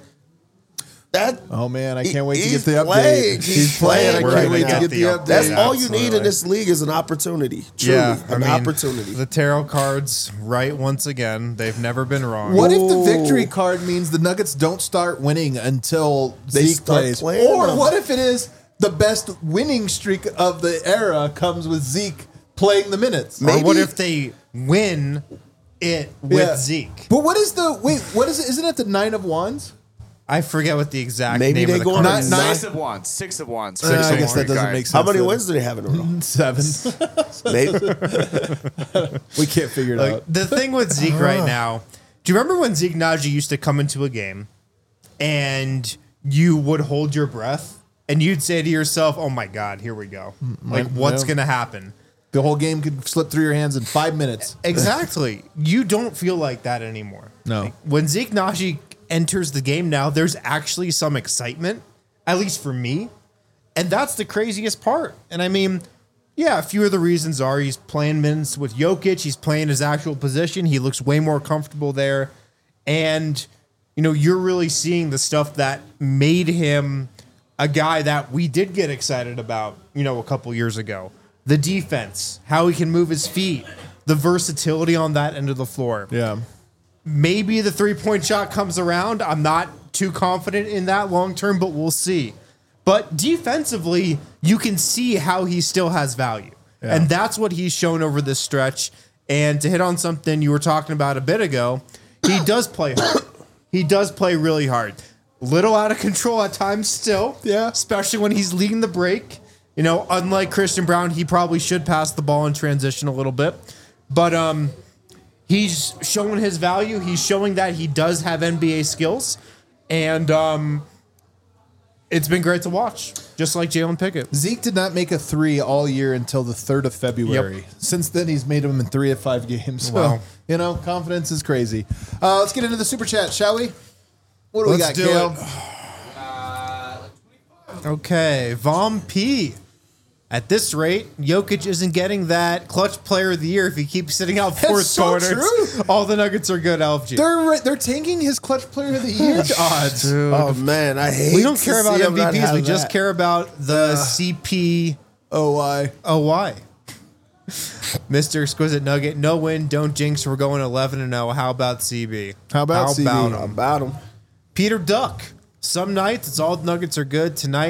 Oh man, I can't wait to get the
update.
He's playing. I can't wait to get the update.
That's all you need in this league is an opportunity. Truly, an opportunity.
The tarot cards, right? Once again, they've never been wrong.
What if the victory card means the Nuggets don't start winning until Zeke plays? Or what if it is the best winning streak of the era comes with Zeke playing the minutes?
Or what if they win it with Zeke?
But what is what is it? Isn't it the 9 of Wands?
I forget what the exact
Maybe
name
they
of the
go
card
on
is.
6 of Wands. 6 of Wands.
I guess that doesn't make sense.
How many wins do they have in a row?
7.
Maybe.
We can't figure it out.
The thing with Zeke right now, do you remember when Zeke Naji used to come into a game and you would hold your breath and you'd say to yourself, oh my God, here we go. Like, what's going to happen?
The whole game could slip through your hands in 5 minutes.
Exactly. You don't feel like that anymore.
No.
Like, when Zeke Naji enters the game now, there's actually some excitement, at least for me. And that's the craziest part. And I mean, yeah, a few of the reasons are he's playing minutes with Jokic. He's playing his actual position. He looks way more comfortable there. And, you know, you're really seeing the stuff that made him a guy that we did get excited about, you know, a couple years ago. The defense, how he can move his feet, the versatility on that end of the floor.
Yeah.
Maybe the three-point shot comes around. I'm not too confident in that long term, but we'll see. But defensively, you can see how he still has value. Yeah. And that's what he's shown over this stretch. And to hit on something you were talking about a bit ago, he does play hard. He does play really hard. Little out of control at times still.
Yeah.
Especially when he's leading the break. You know, unlike Christian Brown, he probably should pass the ball in transition a little bit. But he's showing his value. He's showing that he does have NBA skills. And it's been great to watch, just like Jalen Pickett.
Zeke did not make a 3 all year until the 3rd of February. Yep. Since then, he's made them in 3 of 5 games. So,
wow.
You know, confidence is crazy. Let's get into the Super Chat, shall we? What do we got, Kale?
Okay, Vom P. At this rate, Jokic isn't getting that clutch player of the year if he keeps sitting out fourth quarters.
True.
All the Nuggets are good, LFG.
They're tanking his clutch player of the year odds.
Oh man, I hate.
We don't care about MVPs. We just care about the CPOY. Mr. Exquisite Nugget, no win, don't jinx. We're going 11-0. How about CB?
How about CB?
How about him?
Peter Duck. Some nights it's all the Nuggets are good. Tonight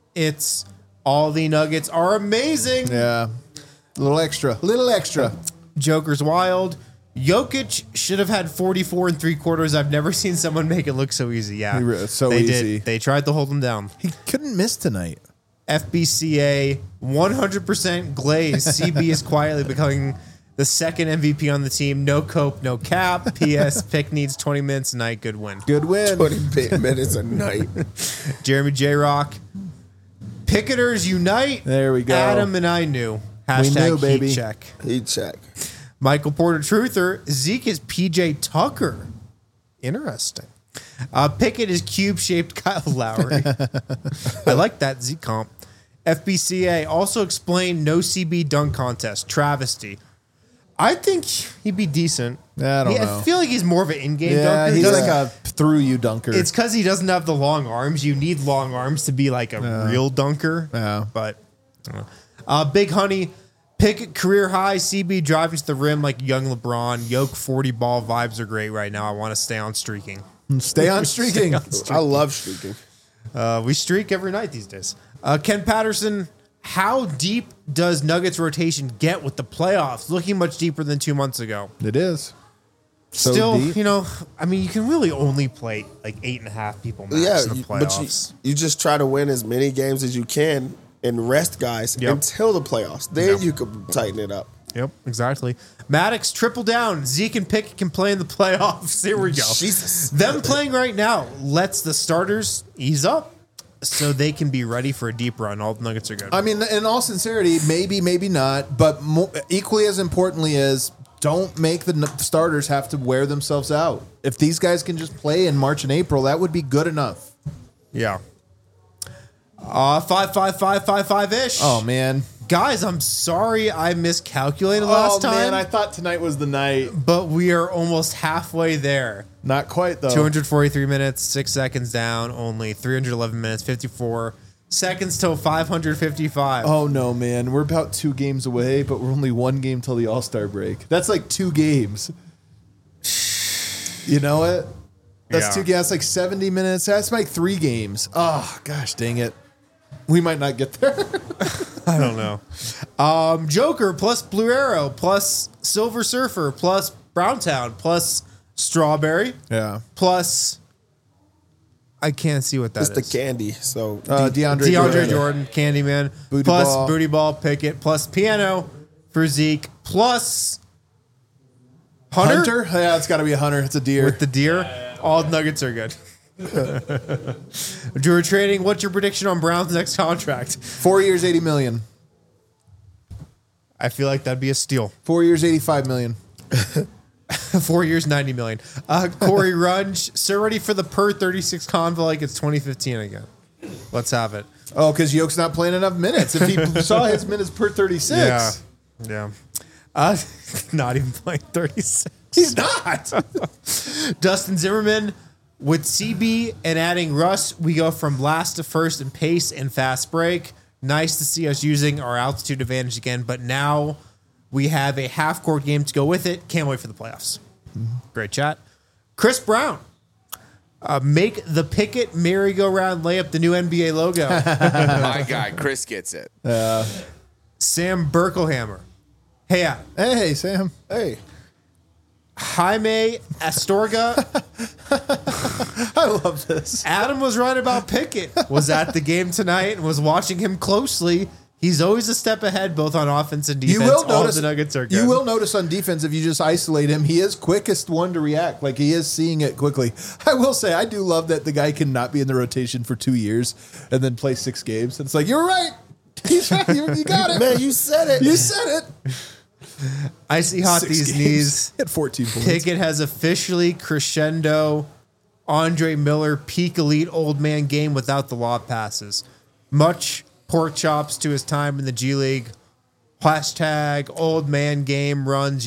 It's all the Nuggets are amazing.
Yeah. A little extra.
Joker's wild. Jokic should have had 44 and 3/4. I've never seen someone make it look so easy. Yeah,
It's so
they
easy.
did. They tried to hold him down.
He couldn't miss tonight.
FBCA 100% glaze. CB is quietly becoming the second MVP on the team. No cope, no cap. PS pick needs 20 minutes a night. Good win.
Good win.
20 minutes a night.
Jeremy J Rock. Picketers unite.
There we go.
Adam and I knew. Hashtag
knew, baby.
heat check.
Heat check.
Michael Porter Truther. Zeke is PJ Tucker. Interesting. Pickett is cube-shaped Kyle Lowry. I like that Zeke comp. FBCA also explained no CB dunk contest. Travesty. I think he'd be decent.
I don't know.
I feel like he's more of an in-game
Yeah,
dunker.
he's like a through-you dunker.
It's because he doesn't have the long arms. You need long arms to be like a real dunker.
Yeah.
But Big Honey, Pickett career high. CB driving to the rim like young LeBron. Yoke 40 ball vibes are great right now. I want to stay on streaking.
Stay on streaking.
I love streaking.
We streak every night these days. Ken Patterson, how deep does Nuggets rotation get with the playoffs? Looking much deeper than 2 months ago.
It is. So
Still,
deep.
I mean, you can really only play like 8.5 people max in the playoffs.
But you just try to win as many games as you can and rest guys until the playoffs. Then you can tighten it up.
Yep, exactly. Maddox, triple down. Zeke and Pickett can play in the playoffs. Here we go.
Jesus.
Them playing right now lets the starters ease up so they can be ready for a deep run. All the Nuggets are good.
I mean, in all sincerity, maybe not, but equally as importantly is don't make the starters have to wear themselves out. If these guys can just play in March and April, that would be good enough.
Yeah. 5-5-5-5-5-ish.
Oh, man.
Guys, I'm sorry I miscalculated last time.
Man, I thought tonight was the night.
But we are almost halfway there.
Not quite, though.
243 minutes, 6 seconds down, only 311 minutes, 54 seconds till 555.
Oh, no, man. We're about 2 games away, but we're only 1 game till the All-Star break. That's like 2 games. You know it? That's 2 games. That's like 70 minutes. That's like 3 games. Oh, gosh, dang it. We might not get there.
I don't know. Joker plus Blue Arrow plus Silver Surfer plus Browntown plus Strawberry.
Yeah.
Plus, I can't see what that is.
It's the candy. So
DeAndre
Jordan, Candyman,
Booty
plus
Ball.
Booty Ball, Pickett, plus Piano for Zeke, plus Hunter?
Yeah, it's got to be a hunter. It's a deer.
With the deer. All Nuggets are good. Drew Trading, what's your prediction on Brown's next contract?
4 years, $80 million.
I feel like that'd be a steal.
4 years, $85 million.
4 years, $90 million. Corey Runge, so ready for the per 36 convo like it's 2015 again. Let's have it.
Oh, because Yoke's not playing enough minutes. If he saw his minutes per 36.
Yeah. Not even playing 36.
He's not.
Dustin Zimmerman, with CB and adding Russ, we go from last to first in pace and fast break. Nice to see us using our altitude advantage again, but now we have a half-court game to go with it. Can't wait for the playoffs. Great chat. Chris Brown, make the Pickett merry-go-round layup the new NBA logo.
My guy, Chris gets it.
Sam Berkelhammer. Hey,
Hey, Sam.
hey,
Jaime Astorga.
I love this.
Adam was right about Pickett. Was at the game tonight and was watching him closely. He's always a step ahead, both on offense and defense.
You will
All
notice
the Nuggets are good.
You will notice on defense if you just isolate him, he is quickest one to react. Like he is seeing it quickly. I will say I do love that the guy cannot be in the rotation for 2 years and then play 6 games. It's like you're right. He's right. You got it,
man, you said it.
You said it.
I see hot
6
these
games.
knees.
He had 14 points.
Pickett has officially crescendo Andre Miller peak elite old man game without the lob passes. Much pork chops to his time in the G League. Hashtag old man game runs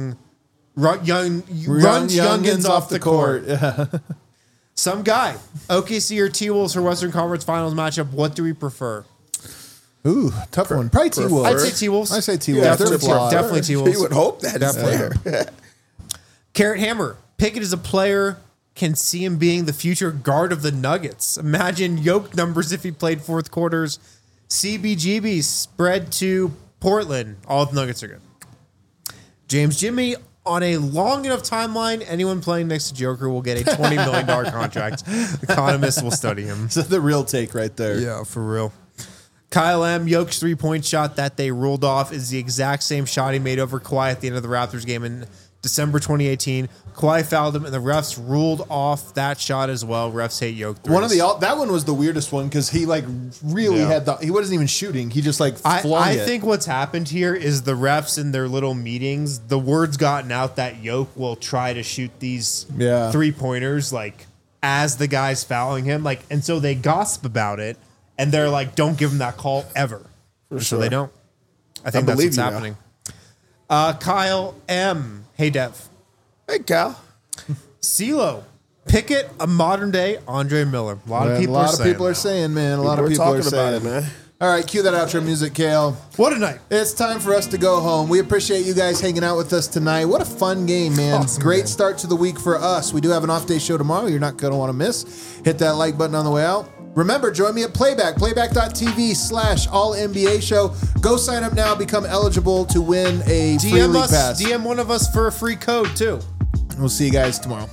youngins off the court.
Yeah.
Some guy. OKC or T-Wolves for Western Conference Finals matchup. What do we prefer?
Ooh, tough one. Probably T-Wolves.
I'd say T-Wolves.
I say T-Wolves.
Yeah,
They're flawed.
Definitely T-Wolves.
You would hope that is
Definitely.
there.
Carrot Hammer. Pickett is a player can see him being the future guard of the Nuggets. Imagine Yoke numbers if he played fourth quarters. CBGB spread to Portland. All the Nuggets are good. James Jimmy, on a long enough timeline, anyone playing next to Joker will get a $20 million contract. Economists will study him.
This is the real take right there.
Yeah, for real. Kyle M. Yoke's three-point shot that they ruled off is the exact same shot he made over Kawhi at the end of the Raptors game in December 2018. Kawhi fouled him, and the refs ruled off that shot as well. Refs hate Yoke threes.
That one was the weirdest one because he really he wasn't even shooting. He just flung
I
it.
think what's happened here is the refs in their little meetings, the word's gotten out that Yoke will try to shoot these 3-pointers as the guy's fouling him, and so they gossip about it, and they're like, don't give him that call ever. So they don't. I think that's what's happening. Kyle M. Hey, Dev.
Hey, Cal.
CeeLo. Pickett, a modern-day Andre Miller. A lot of people are saying,
man. A lot of people are
talking
saying
about it, man.
All right, cue that outro music, Kale.
What a night.
It's time for us to go home. We appreciate you guys hanging out with us tonight. What a fun game, man.
Awesome,
Great
man.
start to the week for us. We do have an off-day show tomorrow you're not going to want to miss. Hit that like button on the way out. Remember, join me at playback.tv/all-NBA show. Go sign up now. Become eligible to win a free league pass.
DM one of us for a free code, too.
We'll see you guys tomorrow.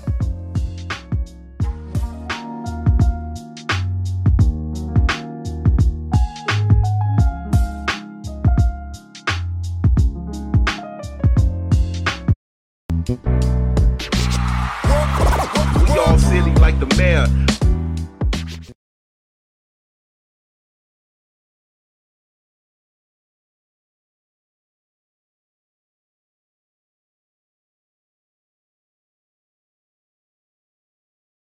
We all silly like the mayor.